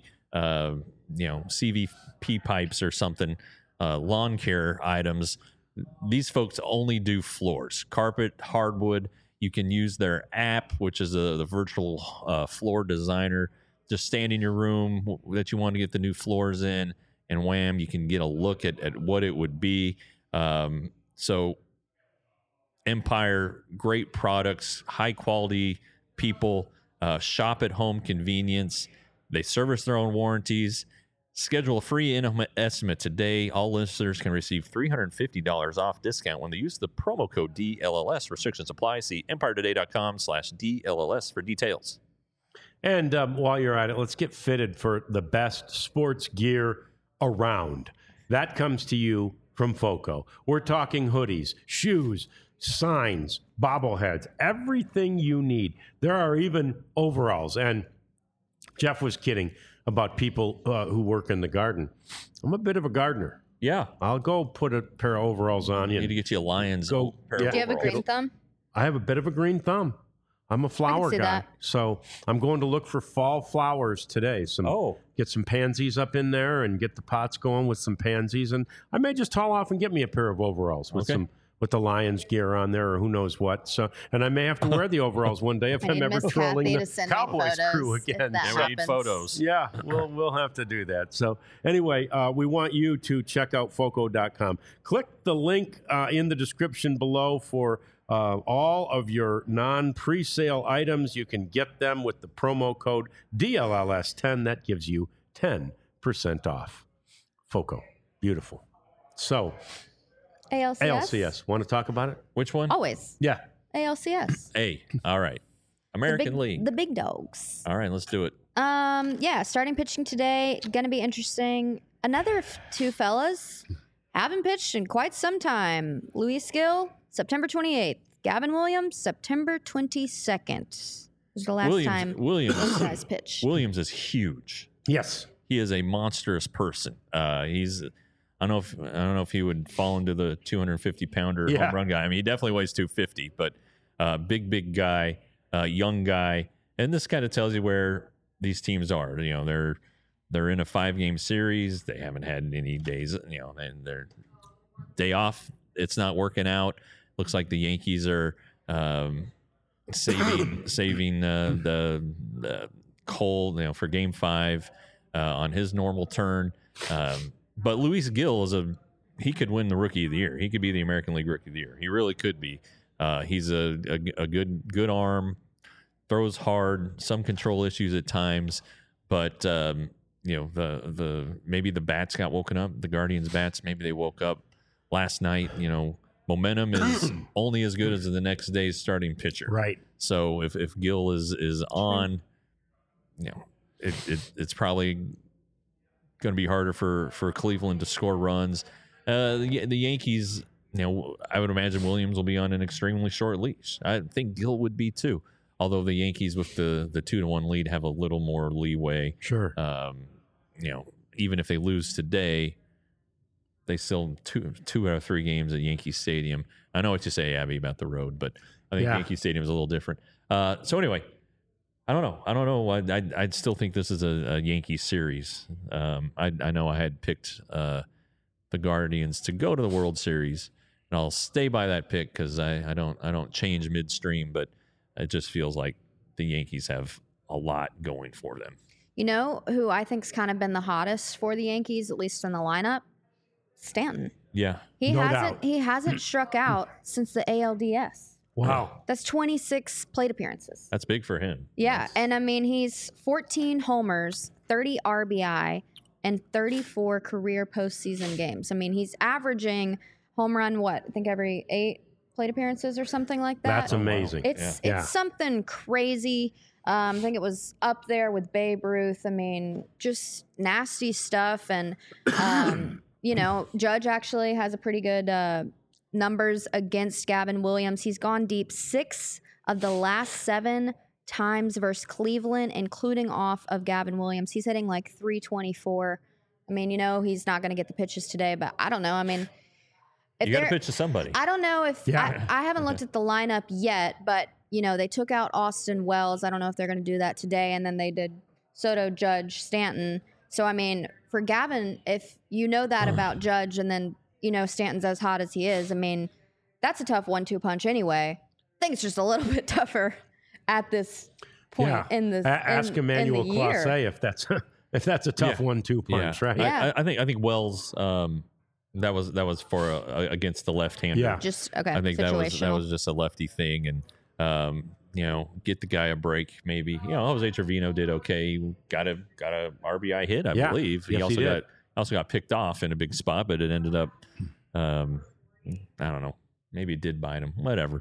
CVP pipes or something, lawn care items. These folks only do floors, carpet, hardwood. You can use their app, which is the virtual floor designer. Just stand in your room that you want to get the new floors in, and wham, you can get a look at what it would be. So Empire, great products, high quality people. Shop at home convenience. They service their own warranties. Schedule a free estimate today. All listeners can receive $350 off discount when they use the promo code DLLS. Restrictions apply. See empiretoday.com/DLLS for details. And while you're at it, let's get fitted for the best sports gear around. That comes to you from FOCO. We're talking hoodies, shoes, signs, bobbleheads, everything you need. There are even overalls. And Jeff was kidding about people who work in the garden. I'm a bit of a gardener. Yeah. I'll go put a pair of overalls on you. Need to get you a Lions. Go- pair of yeah. Do you have a overalls. green thumb? I have a bit of a green thumb. I'm a flower see guy. that. So I'm going to look for fall flowers today. Get some pansies up in there and get the pots going with some pansies. And I may just haul off and get me a pair of overalls with the Lions gear on there, or who knows what. So, and I may have to wear the overalls one day if I I'm need ever Miss trolling Kathy the to send me Cowboys photos crew if again. that Yeah, we need happens. photos. Yeah, we'll have to do that. So anyway, we want you to check out FOCO.com. Click the link in the description below for all of your non-presale items. You can get them with the promo code DLLS10. That gives you 10% off. FOCO. Beautiful. So ALCS. Want to talk about it? Which one? Always. Yeah. ALCS. Hey, all right. American League. The big dogs. All right, let's do it. Starting pitching today, gonna be interesting. Another two fellas haven't pitched in quite some time. Luis Gill, September 28th. Gavin Williams, September 22nd. was the last time those guys pitched. Williams is huge. Yes. He is a monstrous person. He's I don't know if he would fall into the 250-pounder home run guy. I mean, he definitely weighs 250, but big guy, young guy, and this kind of tells you where these teams are. You know, they're in a 5-game series. They haven't had any days. You know, and their day off, it's not working out. Looks like the Yankees are saving the Cole, you know, for Game 5 on his normal turn. But Luis Gil he could win the Rookie of the Year. He could be the American League Rookie of the Year. He really could be. He's a good arm, throws hard, some control issues at times, but you know, the maybe the bats got woken up. The Guardians bats, maybe they woke up last night. You know, momentum is only as good as the next day's starting pitcher. Right. So if Gil is on, you know, it's probably going to be harder for Cleveland to score runs. The Yankees, you know, I would imagine Williams will be on an extremely short leash. I think Gil would be too. Although the Yankees with the 2-1 lead have a little more leeway. Sure. You know, even if they lose today, they still two out of 3 games at Yankee Stadium. I know what you say, Abby, about the road, but I think Yankee Stadium is a little different. So anyway, I don't know. I'd still think this is a Yankee series. I know I had picked the Guardians to go to the World Series, and I'll stay by that pick because I don't change midstream, but it just feels like the Yankees have a lot going for them. You know who I think's kind of been the hottest for the Yankees, at least in the lineup? Stanton. Yeah. He hasn't struck out since the ALDS. Wow. That's 26 plate appearances. That's big for him. Yeah, and I mean, he's 14 homers, 30 RBI, and 34 career postseason games. I mean, he's averaging home run, I think every 8 plate appearances or something like that. That's amazing. It's something crazy. I think it was up there with Babe Ruth. I mean, just nasty stuff. And, you know, Judge actually has a pretty good numbers against Gavin Williams. He's gone deep 6 of the last 7 times versus Cleveland, including off of Gavin Williams. He's hitting like 324. I mean, you know, he's not going to get the pitches today, but I don't know. I mean, you got to pitch to somebody. I don't know if I haven't looked at the lineup yet, but you know, they took out Austin Wells. I don't know if they're going to do that today. And then they did Soto, Judge, Stanton. So, I mean, for Gavin, if you know that about Judge and then, you know, Stanton's as hot as he is, I mean, that's a tough 1-2 punch anyway. I think it's just a little bit tougher at this point in the Ask Emmanuel Clase if that's a tough 1-2 punch, right? Yeah. I think Wells that was for against the left-hander. Yeah. Just okay. I think that was just a lefty thing, and you know, get the guy a break maybe. You know, Jose Trevino did okay. He got a RBI hit, I believe. Yes, he also got picked off in a big spot, but it ended up I don't know. Maybe it did bite him. Whatever.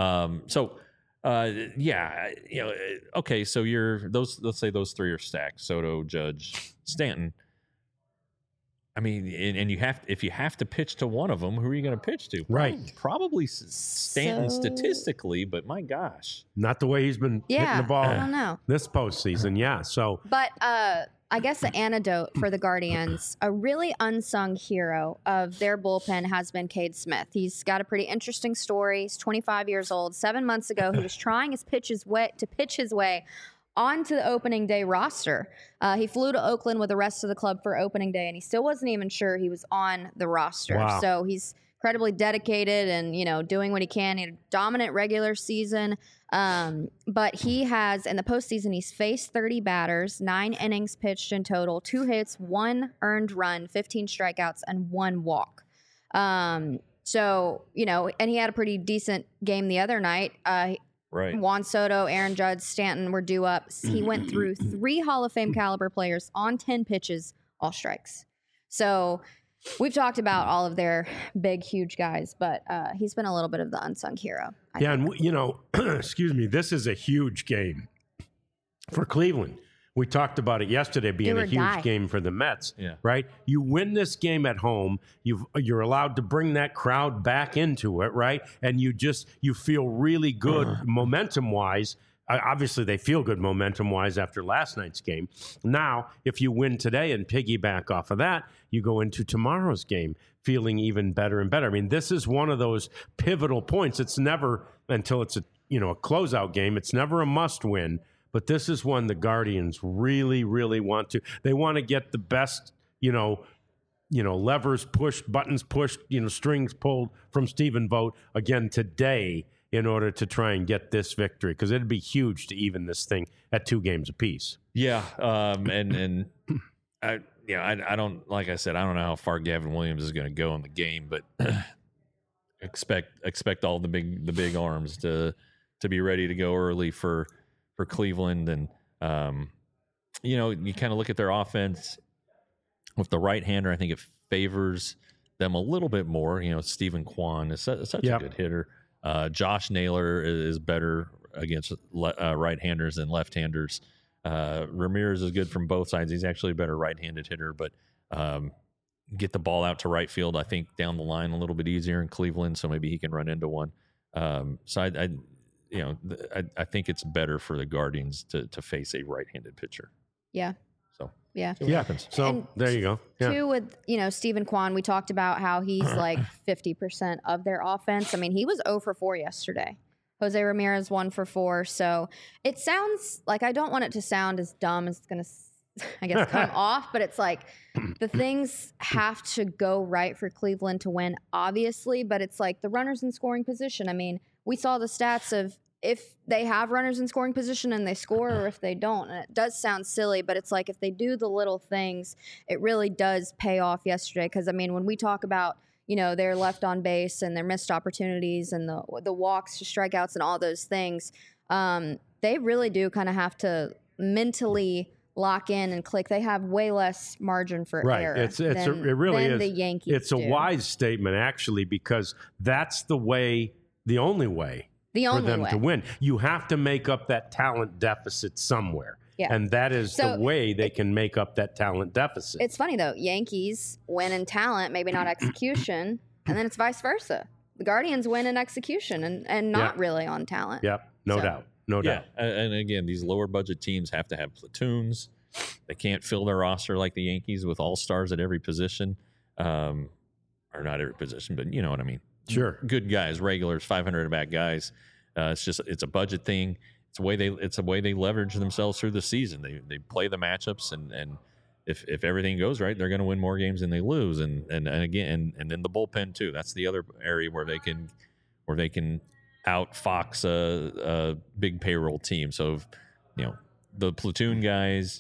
Yeah, you know, okay, so let's say those 3 are stacked. Soto, Judge, Stanton. I mean, and if you have to pitch to one of them, who are you going to pitch to? Right. Probably Stanton statistically, but my gosh. Not the way he's been hitting the ball I don't know. this postseason, So, but I guess the antidote for the Guardians, a really unsung hero of their bullpen has been Cade Smith. He's got a pretty interesting story. He's 25 years old. 7 months ago, he was trying to pitch his way onto the opening day roster. He flew to Oakland with the rest of the club for opening day, and he still wasn't even sure he was on the roster. Wow. So he's incredibly dedicated and, you know, doing what he can. He had a dominant regular season. But he has, in the postseason, he's faced 30 batters, 9 innings pitched in total, 2 hits, 1 earned run, 15 strikeouts, and 1 walk. So, you know, and he had a pretty decent game the other night. Right. Juan Soto, Aaron Judge, Stanton were due up. He went through 3 Hall of Fame caliber players on 10 pitches, all strikes. So we've talked about all of their big, huge guys, but he's been a little bit of the unsung hero. I think. and you know, excuse me, this is a huge game for Cleveland. We talked about it yesterday being a huge game for the Mets, right? You win this game at home, you're allowed to bring that crowd back into it, right? And you feel really good momentum-wise obviously they feel good momentum-wise after last night's game. Now, if you win today and piggyback off of that, you go into tomorrow's game feeling even better and better. I mean, this is one of those pivotal points. It's never, until it's a closeout game, it's never a must-win. But this is one the Guardians really, really want to. They want to get the best, levers pushed, buttons pushed, strings pulled from Stephen Vogt again today in order to try and get this victory, because it'd be huge to even this thing at 2 games apiece. Yeah, and I don't, like I said, I don't know how far Gavin Williams is going to go in the game, but expect all the big arms to be ready to go early for Cleveland. And you kind of look at their offense with the right-hander. I think it favors them a little bit more. Stephen Kwan is such a good hitter. Josh Naylor is better against right-handers than left-handers. Ramirez is good from both sides. He's actually a better right-handed hitter, but get the ball out to right field, I think, down the line a little bit easier in Cleveland, so maybe he can run into one. So I think it's better for the Guardians to face a right-handed pitcher. Yeah. So yeah, see what happens. So and there you go. Yeah. Too, with Stephen Kwan, we talked about how he's like 50% of their offense. I mean, he was 0 for 4 yesterday. Jose Ramirez 1 for 4. So it sounds like, I don't want it to sound as dumb as it's going to, I guess, come off, but it's like the things have to go right for Cleveland to win, obviously, but it's like the runners in scoring position. I mean, we saw the stats of if they have runners in scoring position and they score, or if they don't. And it does sound silly, but it's like if they do the little things, it really does pay off yesterday. Because, I mean, when we talk about, their left on base and their missed opportunities and the walks to strikeouts and all those things, they really do kind of have to mentally lock in and click. They have way less margin for error. It really is. The Yankees It's a wise statement, actually, because that's the only way for them to win. You have to make up that talent deficit somewhere. Yeah. And that is the way they can make up that talent deficit. It's funny, though. Yankees win in talent, maybe not execution, and then it's vice versa. The Guardians win in execution and not really on talent. Yep, no doubt. No doubt. And again, these lower budget teams have to have platoons. They can't fill their roster like the Yankees with all-stars at every position. Or not every position, but you know what I mean. Good guys, regulars, 500 at-bat guys. It's a budget thing. It's a way they leverage themselves through the season. They play the matchups, and if everything goes right, they're going to win more games than they lose. And then the bullpen too. That's the other area where they can outfox a big payroll team. So the platoon guys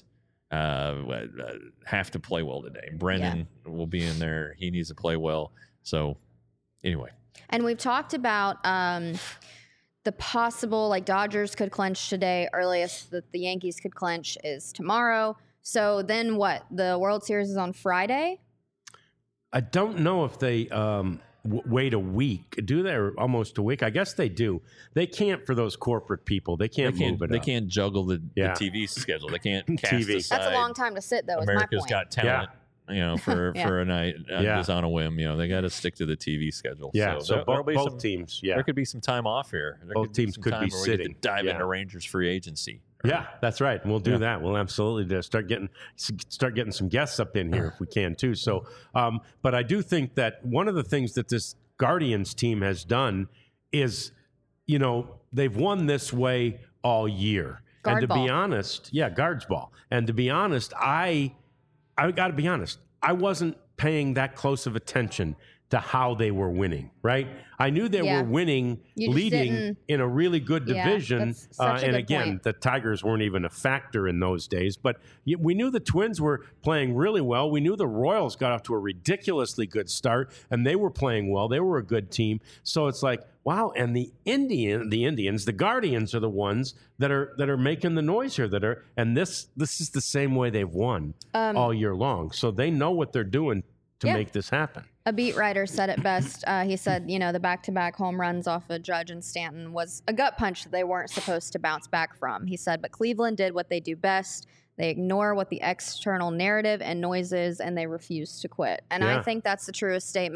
have to play well today. Brennan will be in there. He needs to play well. So anyway, and we've talked about the possible, like, Dodgers could clinch today. Earliest that the Yankees could clinch is tomorrow. So then what? The World Series is on Friday? I don't know if they wait a week. Do they? Or almost a week? I guess they do. They can't, for those corporate people. They can't move it. They can't juggle the TV schedule. They can't cast TV. aside. That's a long time to sit, though. America's is my point. Got Talent. For a night, just on a whim. They got to stick to the TV schedule. Yeah, so both teams. Yeah, there could be some time off here. Both teams could be sitting. Dive into Rangers free agency. Yeah, that's right. We'll do that. We'll absolutely start getting some guests up in here if we can too. So, but I do think that one of the things that this Guardians team has done is, they've won this way all year. Guards ball. And to be honest, I got to be honest, I wasn't paying that close of attention to how they were winning, right? I knew they were winning, leading in a really good division. And again, the Tigers weren't even a factor in those days. But we knew the Twins were playing really well. We knew the Royals got off to a ridiculously good start, and they were playing well. They were a good team. So it's like, wow. And the Guardians are the ones that are making the noise here. And this is the same way they've won all year long. So they know what they're doing to make this happen. A beat writer said it best. He said, the back-to-back home runs off of Judge and Stanton was a gut punch that they weren't supposed to bounce back from. He said, but Cleveland did what they do best. They ignore what the external narrative and noise is, and they refuse to quit. And I think that's the truest statement.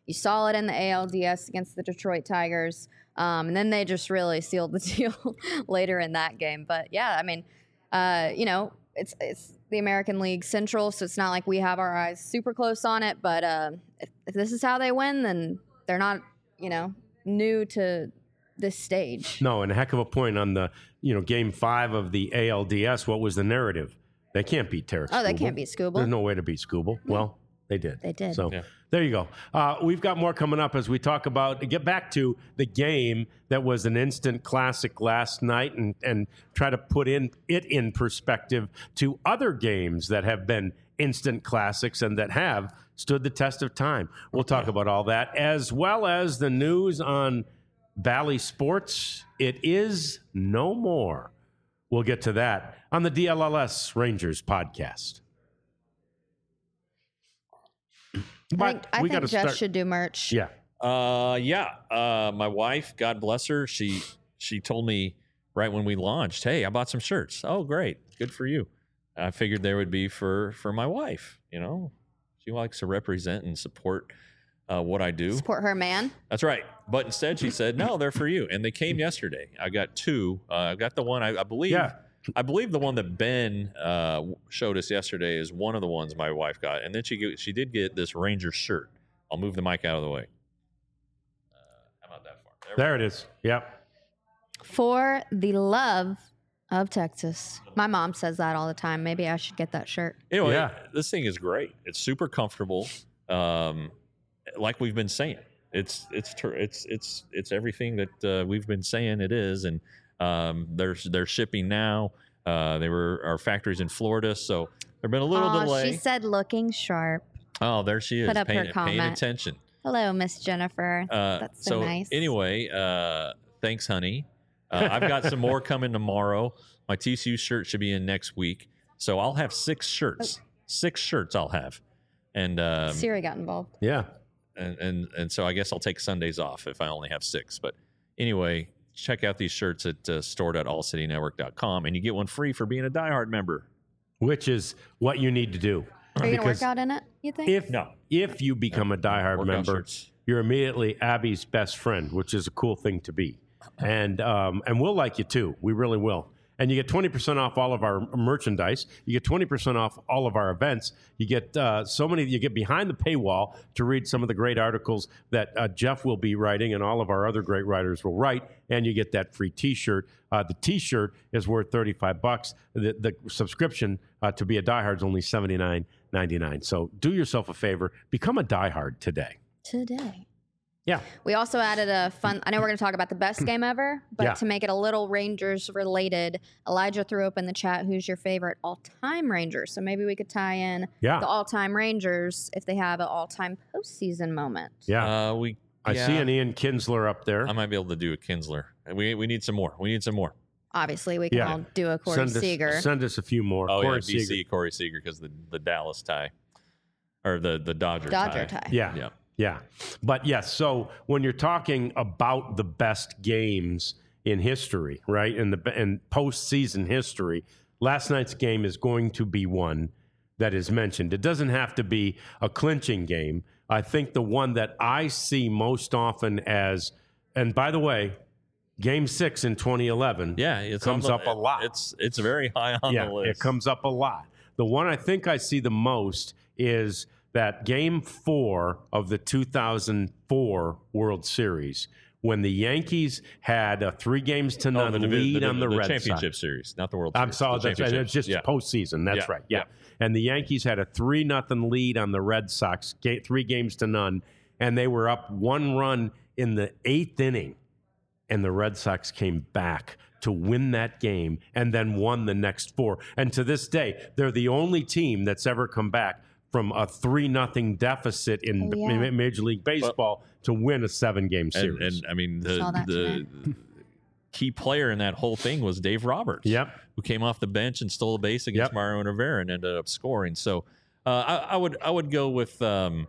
You saw it in the ALDS against the Detroit Tigers. And then they just really sealed the deal later in that game. But yeah, I mean, it's the American League Central, so it's not like we have our eyes super close on it. But if this is how they win, then they're not, new to this stage. No, and a heck of a point on the, game 5 of the ALDS. What was the narrative? They can't beat Tarek Skubal. Oh, they can't beat Skubal. There's no way to beat Skubal. Well, they did. They did. So there you go. We've got more coming up as we talk about, get back to the game that was an instant classic last night and try to put it in perspective to other games that have been instant classics and that have stood the test of time. We'll talk about all that, as well as the news on Bally Sports. It is no more. We'll get to that on the DLLS Rangers podcast. But I we think got to Jeff start. should do merch. Yeah. My wife, God bless her, she told me right when we launched, hey, I bought some shirts. Oh, great. Good for you. I figured there would be for my wife, She likes to represent and support what I do. Support her man. That's right. But instead she said, no, they're for you. And they came yesterday. I got 2. I got the one, I believe. Yeah. I believe the one that Ben showed us yesterday is one of the ones my wife got. And then she did get this Ranger shirt. I'll move the mic out of the way. How about that far? There it is. Yep. For the love of Texas. My mom says that all the time. Maybe I should get that shirt. Anyway, Yeah. this thing is great. It's super comfortable. Like we've been saying, it's everything that we've been saying it is, and they're shipping now. They were our factories in Florida, so there's been a little delay. She said looking sharp. Oh, there she is. Put up her paying comment. attention. Hello, Miss Jennifer. That's so nice. Anyway, thanks, honey. I've got some more coming tomorrow. My TCU shirt should be in next week, so I'll have 6 shirts. 6 shirts I'll have, and Siri got involved. Yeah. and so I guess I'll take Sundays off if I only have 6. But anyway, check out these shirts at store.allcitynetwork.com, and you get one free for being a diehard member. Which is what you need to do. Are you going to Because work out in it, you think? If you become a diehard Workout member, shirts. you're immediately Abby's best friend, which is a cool thing to be. And we'll like you too. We really will. And you get 20% off all of our merchandise. You get 20% off all of our events. You get you get behind the paywall to read some of the great articles that Jeff will be writing and all of our other great writers will write. And you get that free T-shirt. The T-shirt is worth $35. The subscription to be a diehard is only $79.99. So do yourself a favor. Become a diehard today. Today. Yeah. We also added a fun, I know we're going to talk about the best game ever, but Yeah. to make it a little Rangers related, Elijah threw up in the chat, who's your favorite all-time Ranger? So maybe we could tie in Yeah. the all-time Rangers if they have an all-time postseason moment. Yeah. I see an Ian Kinsler up there. I might be able to do a Kinsler. We need some more. We need some more. Obviously, we can Yeah. all do a Corey Seager. Send us a few more. Oh, Corey yeah, BC, Seager. Corey Seager, because the Dallas tie. Or the Dodger tie. Yeah. Yeah. Yeah. But yes, so when you're talking about the best games in history, right, in postseason history, last night's game is going to be one that is mentioned. It doesn't have to be a clinching game. I think the one that I see most often as, and by the way, Game 6 in 2011 It comes up a lot. It's very high on the list. It comes up a lot. The one I think I see the most is that Game 4 of the 2004 World Series, when the Yankees had a 3-0 lead on the Red Sox. Championship Series, not the World I'm Series. sorry, The that's right. It's just championship. postseason. That's Yeah. right. Yeah. And the Yankees had a 3-0 lead on the Red Sox, 3-0, and they were up 1 run in the 8th inning, and the Red Sox came back to win that game and then won the next 4. And to this day, they're the only team that's ever come back from a 3-0 deficit in Major League Baseball to win a 7-game series. And I mean, Saw that the key player in that whole thing was Dave Roberts. Yep. Who came off the bench and stole a base against Mario Rivera and ended up scoring. So I would go with that.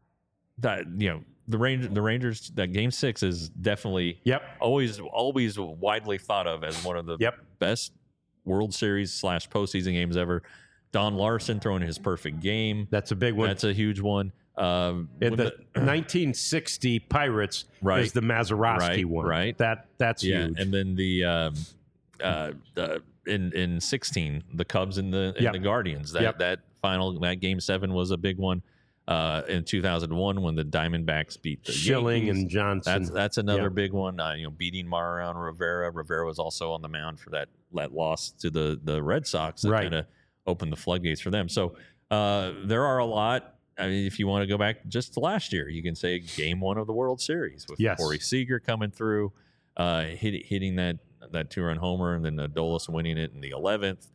The Rangers. That Game 6 is definitely always widely thought of as one of the best World Series / postseason games ever. Don Larson throwing his perfect game. That's a big one. That's a huge one. The 1960 Pirates Right. is the Mazeroski Right, one. right. That's huge. And then in 16, the Cubs and the Guardians. That game 7 was a big one. In 2001, when the Diamondbacks beat the Schilling Yankees. and Johnson. That's another big one. Beating Mariano Rivera. Rivera was also on the mound for that loss to the Red Sox that kind of opened the floodgates for them. So there are a lot. I mean, if you want to go back just to last year, you can say Game 1 of the World Series with Corey Seager coming through, hitting that 2-run homer, and then Adolis winning it in the 11th.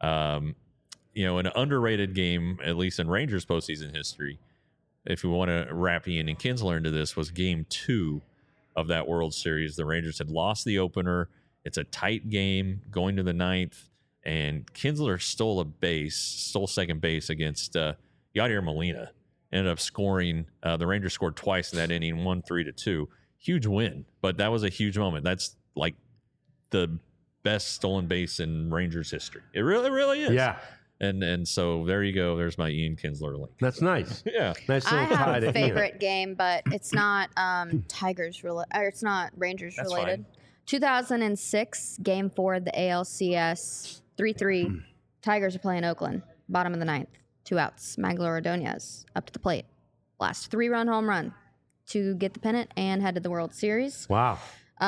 An underrated game, at least in Rangers postseason history, if we want to wrap Ian and Kinsler into this, was Game 2 of that World Series. The Rangers had lost the opener. It's a tight game going to the 9th, and Kinsler stole second base against Yadier Molina. Ended up scoring. The Rangers scored twice in that inning, 3-2. Huge win, but that was a huge moment. That's like the best stolen base in Rangers history. It really is. Yeah. And so there you go. There's my Ian Kinsler link. That's nice. Yeah. Nice I little tie have to a favorite game, but it's not Tigers related, or it's not Rangers That's related. fine. 2006, Game 4 of the ALCS, 3-3. Tigers are playing Oakland, bottom of the 9th, 2 outs. Magloire Ordonez up to the plate, last 3-run home run to get the pennant and head to the World Series. Wow.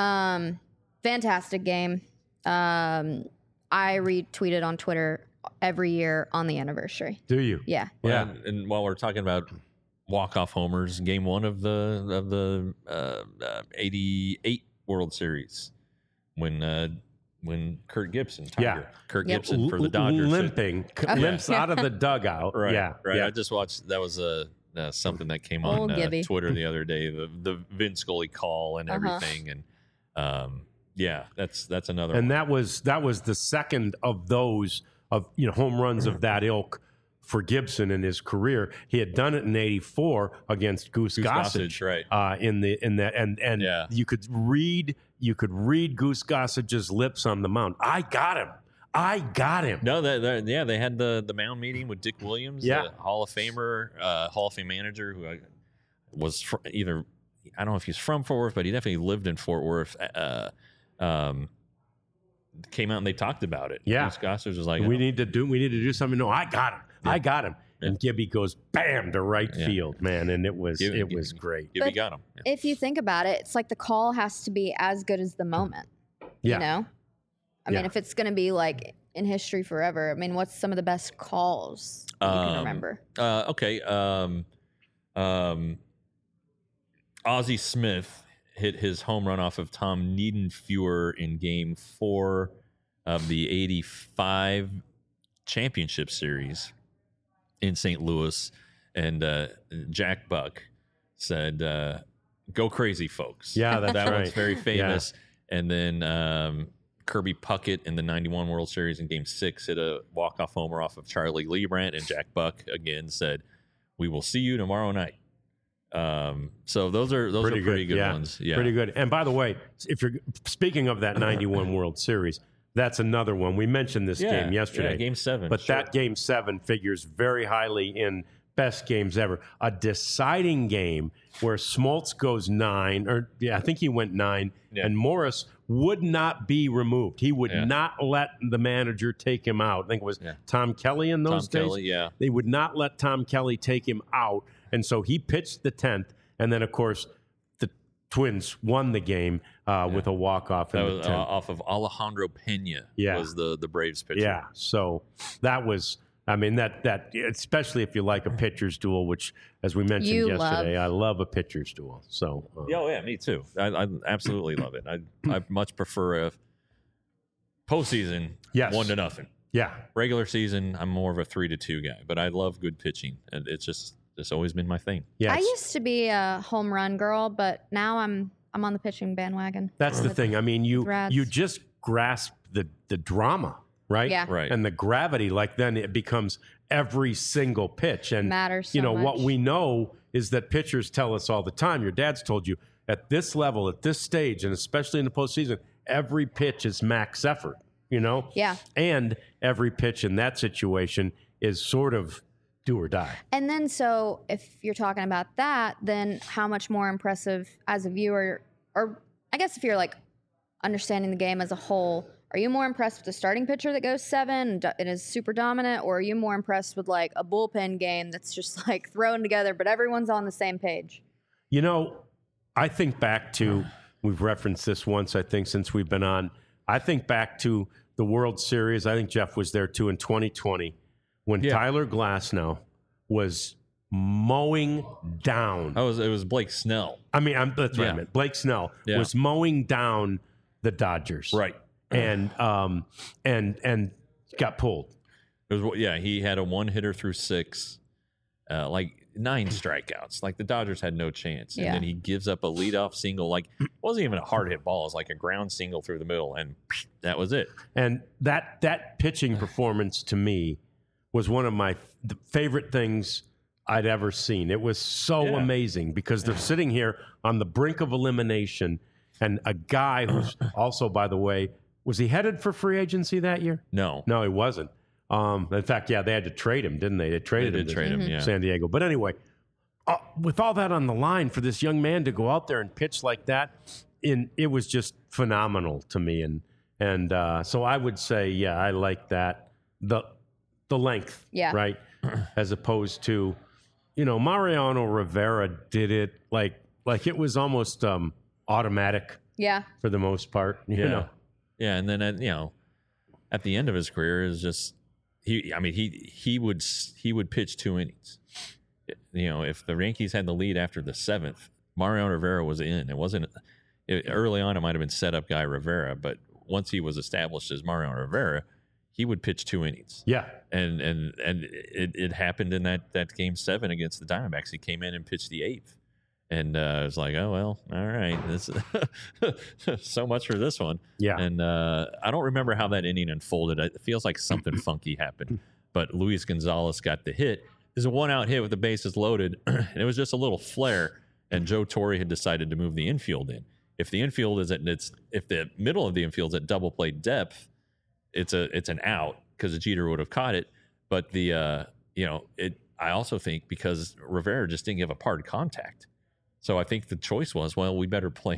Fantastic game. I retweeted on Twitter every year on the anniversary. Do you? Yeah. Well, and while we're talking about walk-off homers, Game 1 of the 88 World Series, when Kurt Gibson, Kurt Gibson for the Dodgers, limps out of the dugout. Right. Yeah. I just watched. That was something that came on Twitter the other day. The Vin Scully call and everything, and that's another. And one. that was the second of those home runs of that ilk for Gibson in his career. He had done it in '84 against Goose Gossage, right? You could read Goose Gossage's lips on the mound. I got him. No, they had the mound meeting with Dick Williams, the Hall of Famer, Hall of Fame manager, who was either, I don't know if he's from Fort Worth, but he definitely lived in Fort Worth. Came out and they talked about it. Yeah, Goose Gossage was like, we need to do something. No, I got him. Yeah. I got him. Yeah. And Gibby goes bam to right field, man, and it was great. Gibby got him. Yeah. If you think about it, it's like the call has to be as good as the moment. Yeah. You know? I mean, if it's going to be like in history forever, I mean, what's some of the best calls you can remember? Okay. Ozzie Smith hit his home run off of Tom Niedenfuer in Game 4 of the '85 championship series in St. Louis, and Jack Buck said, "Go crazy, folks." Yeah, that's that right. one's very famous. Yeah. And then Kirby Puckett in the '91 World Series in Game 6 hit a walk-off homer off of Charlie Leibrandt, and Jack Buck again said, "We will see you tomorrow night." So those are pretty good ones. Yeah, pretty good. And by the way, if you're speaking of that '91 World Series, that's another one. We mentioned this game yesterday. Yeah, Game 7. But that Game 7 figures very highly in best games ever. A deciding game where Smoltz goes 9, I think he went 9, and Morris would not be removed. He would not let the manager take him out. I think it was Tom Kelly in those days. Kelly, They would not let Tom Kelly take him out. And so he pitched the 10th. And then, of course, the Twins won the game with a walk-off in the 10th. Off of Alejandro Pena was the Braves pitcher. Yeah, so that was, I mean, that especially if you like a pitcher's duel, which, as we mentioned yesterday, I love a pitcher's duel. So me too. I absolutely love it. I much prefer a postseason 1-0. Yeah. Regular season, I'm more of a 3-2 guy, but I love good pitching, and it's always been my thing. Yes. I used to be a home run girl, but now I'm on the pitching bandwagon. That's the thing. I mean, you just grasp the drama, right? Yeah. Right. And the gravity, like then it becomes every single pitch. And matters so much. What we know is that pitchers tell us all the time, your dad's told you, at this level, at this stage, and especially in the postseason, every pitch is max effort, Yeah. And every pitch in that situation is sort of do or die. And then, so if you're talking about that, then how much more impressive as a viewer, or I guess if you're like understanding the game as a whole, are you more impressed with the starting pitcher that goes 7 and is super dominant, or are you more impressed with like a bullpen game that's just like thrown together, but everyone's on the same page? You know, I think back to, we've referenced this once, I think, since we've been on. I think back to the World Series. I think Jeff was there too in 2020 when Tyler Glasnow was mowing down. It was Blake Snell. I mean, that's what I meant. Blake Snell was mowing down the Dodgers. Right. And got pulled. It was, he had a 1-hitter through 6, like 9 strikeouts. Like the Dodgers had no chance. And then he gives up a leadoff single. Like it wasn't even a hard hit ball. It was like a ground single through the middle, and that was it. And that pitching performance to me was one of my favorite things I'd ever seen. It was so amazing because they're sitting here on the brink of elimination, and a guy who's also, by the way, was he headed for free agency that year? No, he wasn't. In fact, they had to trade him, didn't they? They traded him to San Diego. But anyway, with all that on the line for this young man to go out there and pitch like that, it was just phenomenal to me. And so I would say, I like that. The length, right? As opposed to, Mariano Rivera did it like it was almost automatic. Yeah. For the most part, you know. Yeah, and then at the end of his career is just he would pitch 2 innings. If the Yankees had the lead after the 7th, Mariano Rivera was in. Early on it might have been setup guy Rivera, but once he was established as Mariano Rivera, he would pitch 2 innings. Yeah. And it happened in that game 7 against the Diamondbacks. He came in and pitched the 8th. And it was like, oh, well, all right. This so much for this one. Yeah. And I don't remember how that inning unfolded. It feels like something funky happened. But Luis Gonzalez got the hit. There's a 1-out hit with the bases loaded. And it was just a little flare. And Joe Torre had decided to move the infield in. If the infield is if the middle of the infield's at double play depth, it's an out because Jeter would have caught it. But I also think because Rivera just didn't give a hard contact. So I think the choice was, well, we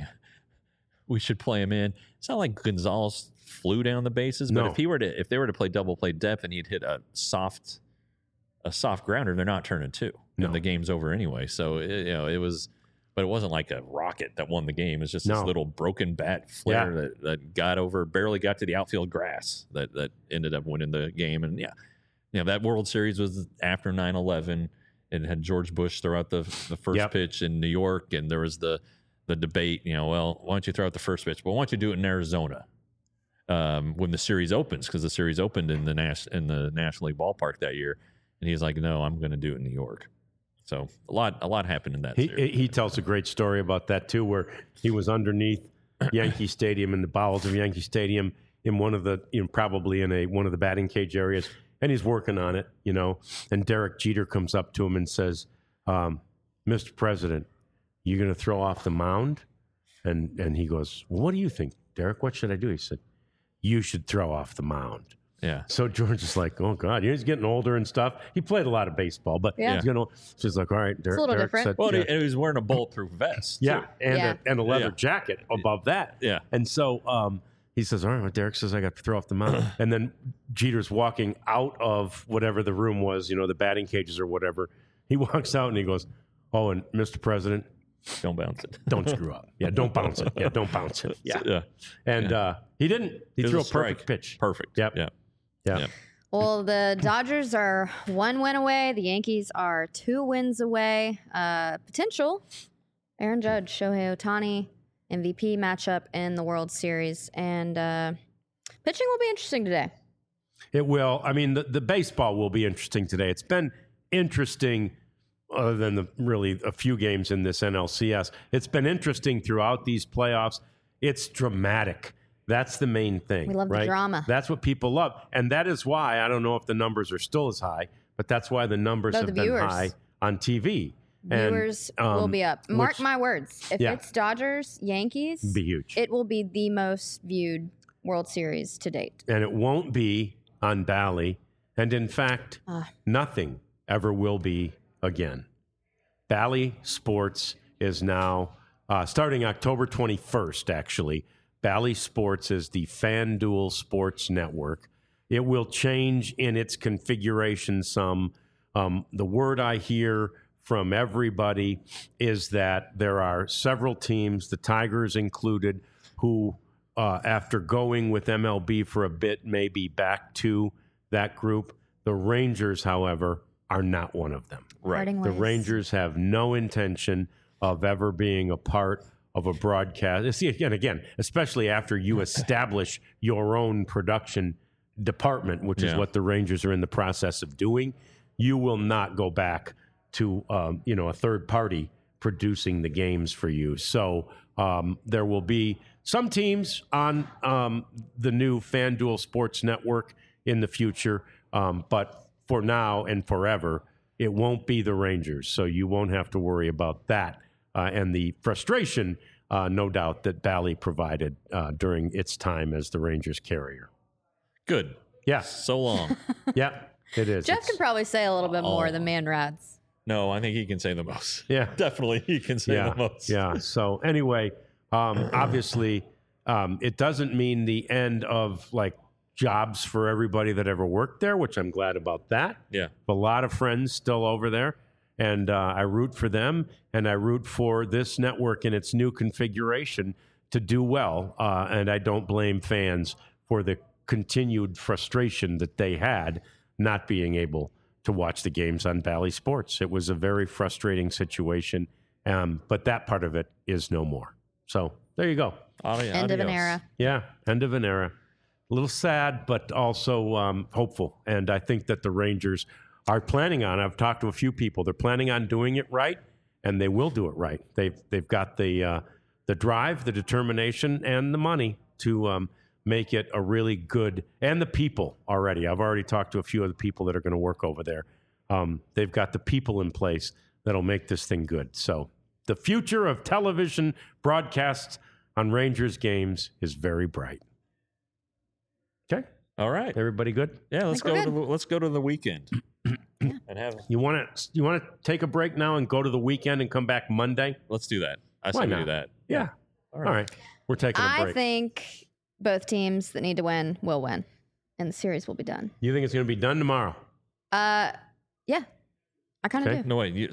should play him in. It's not like Gonzalez flew down the bases, but if they were to play double play depth and he'd hit a soft grounder, they're not turning 2. And the game's over anyway. So it was, but it wasn't like a rocket that won the game. It's just this little broken bat flare that barely got to the outfield grass that ended up winning the game. And that World Series was after 9/11. It had George Bush throw out the first pitch in New York, and there was the debate, well, why don't you throw out the first pitch? Well, why don't you do it in Arizona when the series opens? Because the series opened in the National League ballpark that year. And he's like, no, I'm going to do it in New York. So a lot happened in that series. He tells a great story about that, too, where he was underneath Yankee Stadium, in the bowels of Yankee Stadium, in one of the, probably in one of the batting cage areas. And he's working on it, and Derek Jeter comes up to him and says, Mr. President, you going to throw off the mound? And he goes, well, what do you think, Derek? What should I do? He said, you should throw off the mound. Yeah. So George is like, oh, God, he's getting older and stuff. He played a lot of baseball, but he's going to, she's like, all right, Derek. It's a little different. Said, well, and he was wearing a bulletproof vest. Yeah. And a leather jacket above that. Yeah. And so, he says, all right, well, Derek says I got to throw off the mound. And then Jeter's walking out of whatever the room was, the batting cages or whatever. He walks out and he goes, oh, and Mr. President, don't bounce it. Don't screw up. Yeah, don't bounce it. Yeah, don't bounce it. Yeah. And he didn't. He threw a perfect pitch. Perfect. Yep. Yeah. Well, the Dodgers are 1 win away. The Yankees are 2 wins away. Potential Aaron Judge, Shohei Ohtani MVP matchup in the World Series. And pitching will be interesting today. It will. I mean, the baseball will be interesting today. It's been interesting other than really a few games in this NLCS. It's been interesting throughout these playoffs. It's dramatic. That's the main thing. We love the drama. That's what people love. And that is why, I don't know if the numbers are still as high, but that's why the numbers have been high on TV. Viewers will be up. Mark my words. If it's Dodgers, Yankees, be huge. It will be the most viewed World Series to date. And it won't be on Bally. And in fact, nothing ever will be again. Bally Sports is now, starting October 21st, actually, Bally Sports is the FanDuel Sports Network. It will change in its configuration some. The word I hear from everybody is that there are several teams, the Tigers included, who, after going with MLB for a bit, may be back to that group. The Rangers, however, are not one of them. Right. The Rangers have no intention of ever being a part of a broadcast. See, again, especially after you establish your own production department, which is what the Rangers are in the process of doing, you will not go back to a third party producing the games for you. So there will be some teams on the new FanDuel Sports Network in the future, but for now and forever, it won't be the Rangers. So you won't have to worry about that and the frustration, no doubt, that Bally provided during its time as the Rangers carrier. Good. Yeah. So long. Yeah, it is. Jeff can probably say a little bit more than Man Rats. No, I think he can say the most. Yeah. Definitely he can say the most. Yeah. So anyway, obviously, it doesn't mean the end of jobs for everybody that ever worked there, which I'm glad about that. Yeah. A lot of friends still over there, and I root for them, and I root for this network in its new configuration to do well, and I don't blame fans for the continued frustration that they had not being able to watch the games on Bally Sports. It was a very frustrating situation, but that part of it is no more. So there you go. End of an era. Yeah, end of an era. A little sad, but also hopeful. And I think that the Rangers are planning on, I've talked to a few people, they're planning on doing it right, and they will do it right. They've got the drive, the determination, and the money to make it a really good, and the people already. I've already talked to a few of the people that are going to work over there. They've got the people in place that'll make this thing good. So the future of television broadcasts on Rangers games is very bright. Okay. All right. Everybody good? Yeah, let's go to the weekend. And have You want to take a break now and go to the weekend and come back Monday? Let's do that. I Why say we not? do that. Yeah. All right. We're taking a I break. think both teams that need to win will win, and the series will be done. You think it's going to be done tomorrow? Yeah, I kind of Okay. do. No, wait.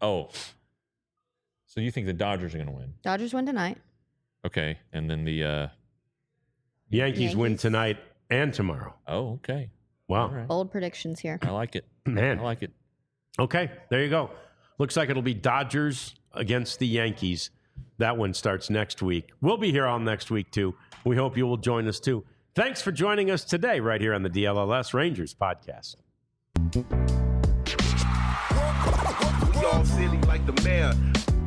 So you think the Dodgers are going to win? Dodgers win tonight. Okay. And then the Yankees win Yankees. tonight and tomorrow. oh, okay. Wow. All right. Bold predictions here. I like it. Man. I like it. Okay, there you go. Looks like it'll be Dodgers against the Yankees. That one starts next week. We'll be here all next week, too. We hope you will join us, too. Thanks for joining us today right here on the DLLS Rangers podcast. We all silly like the mayor.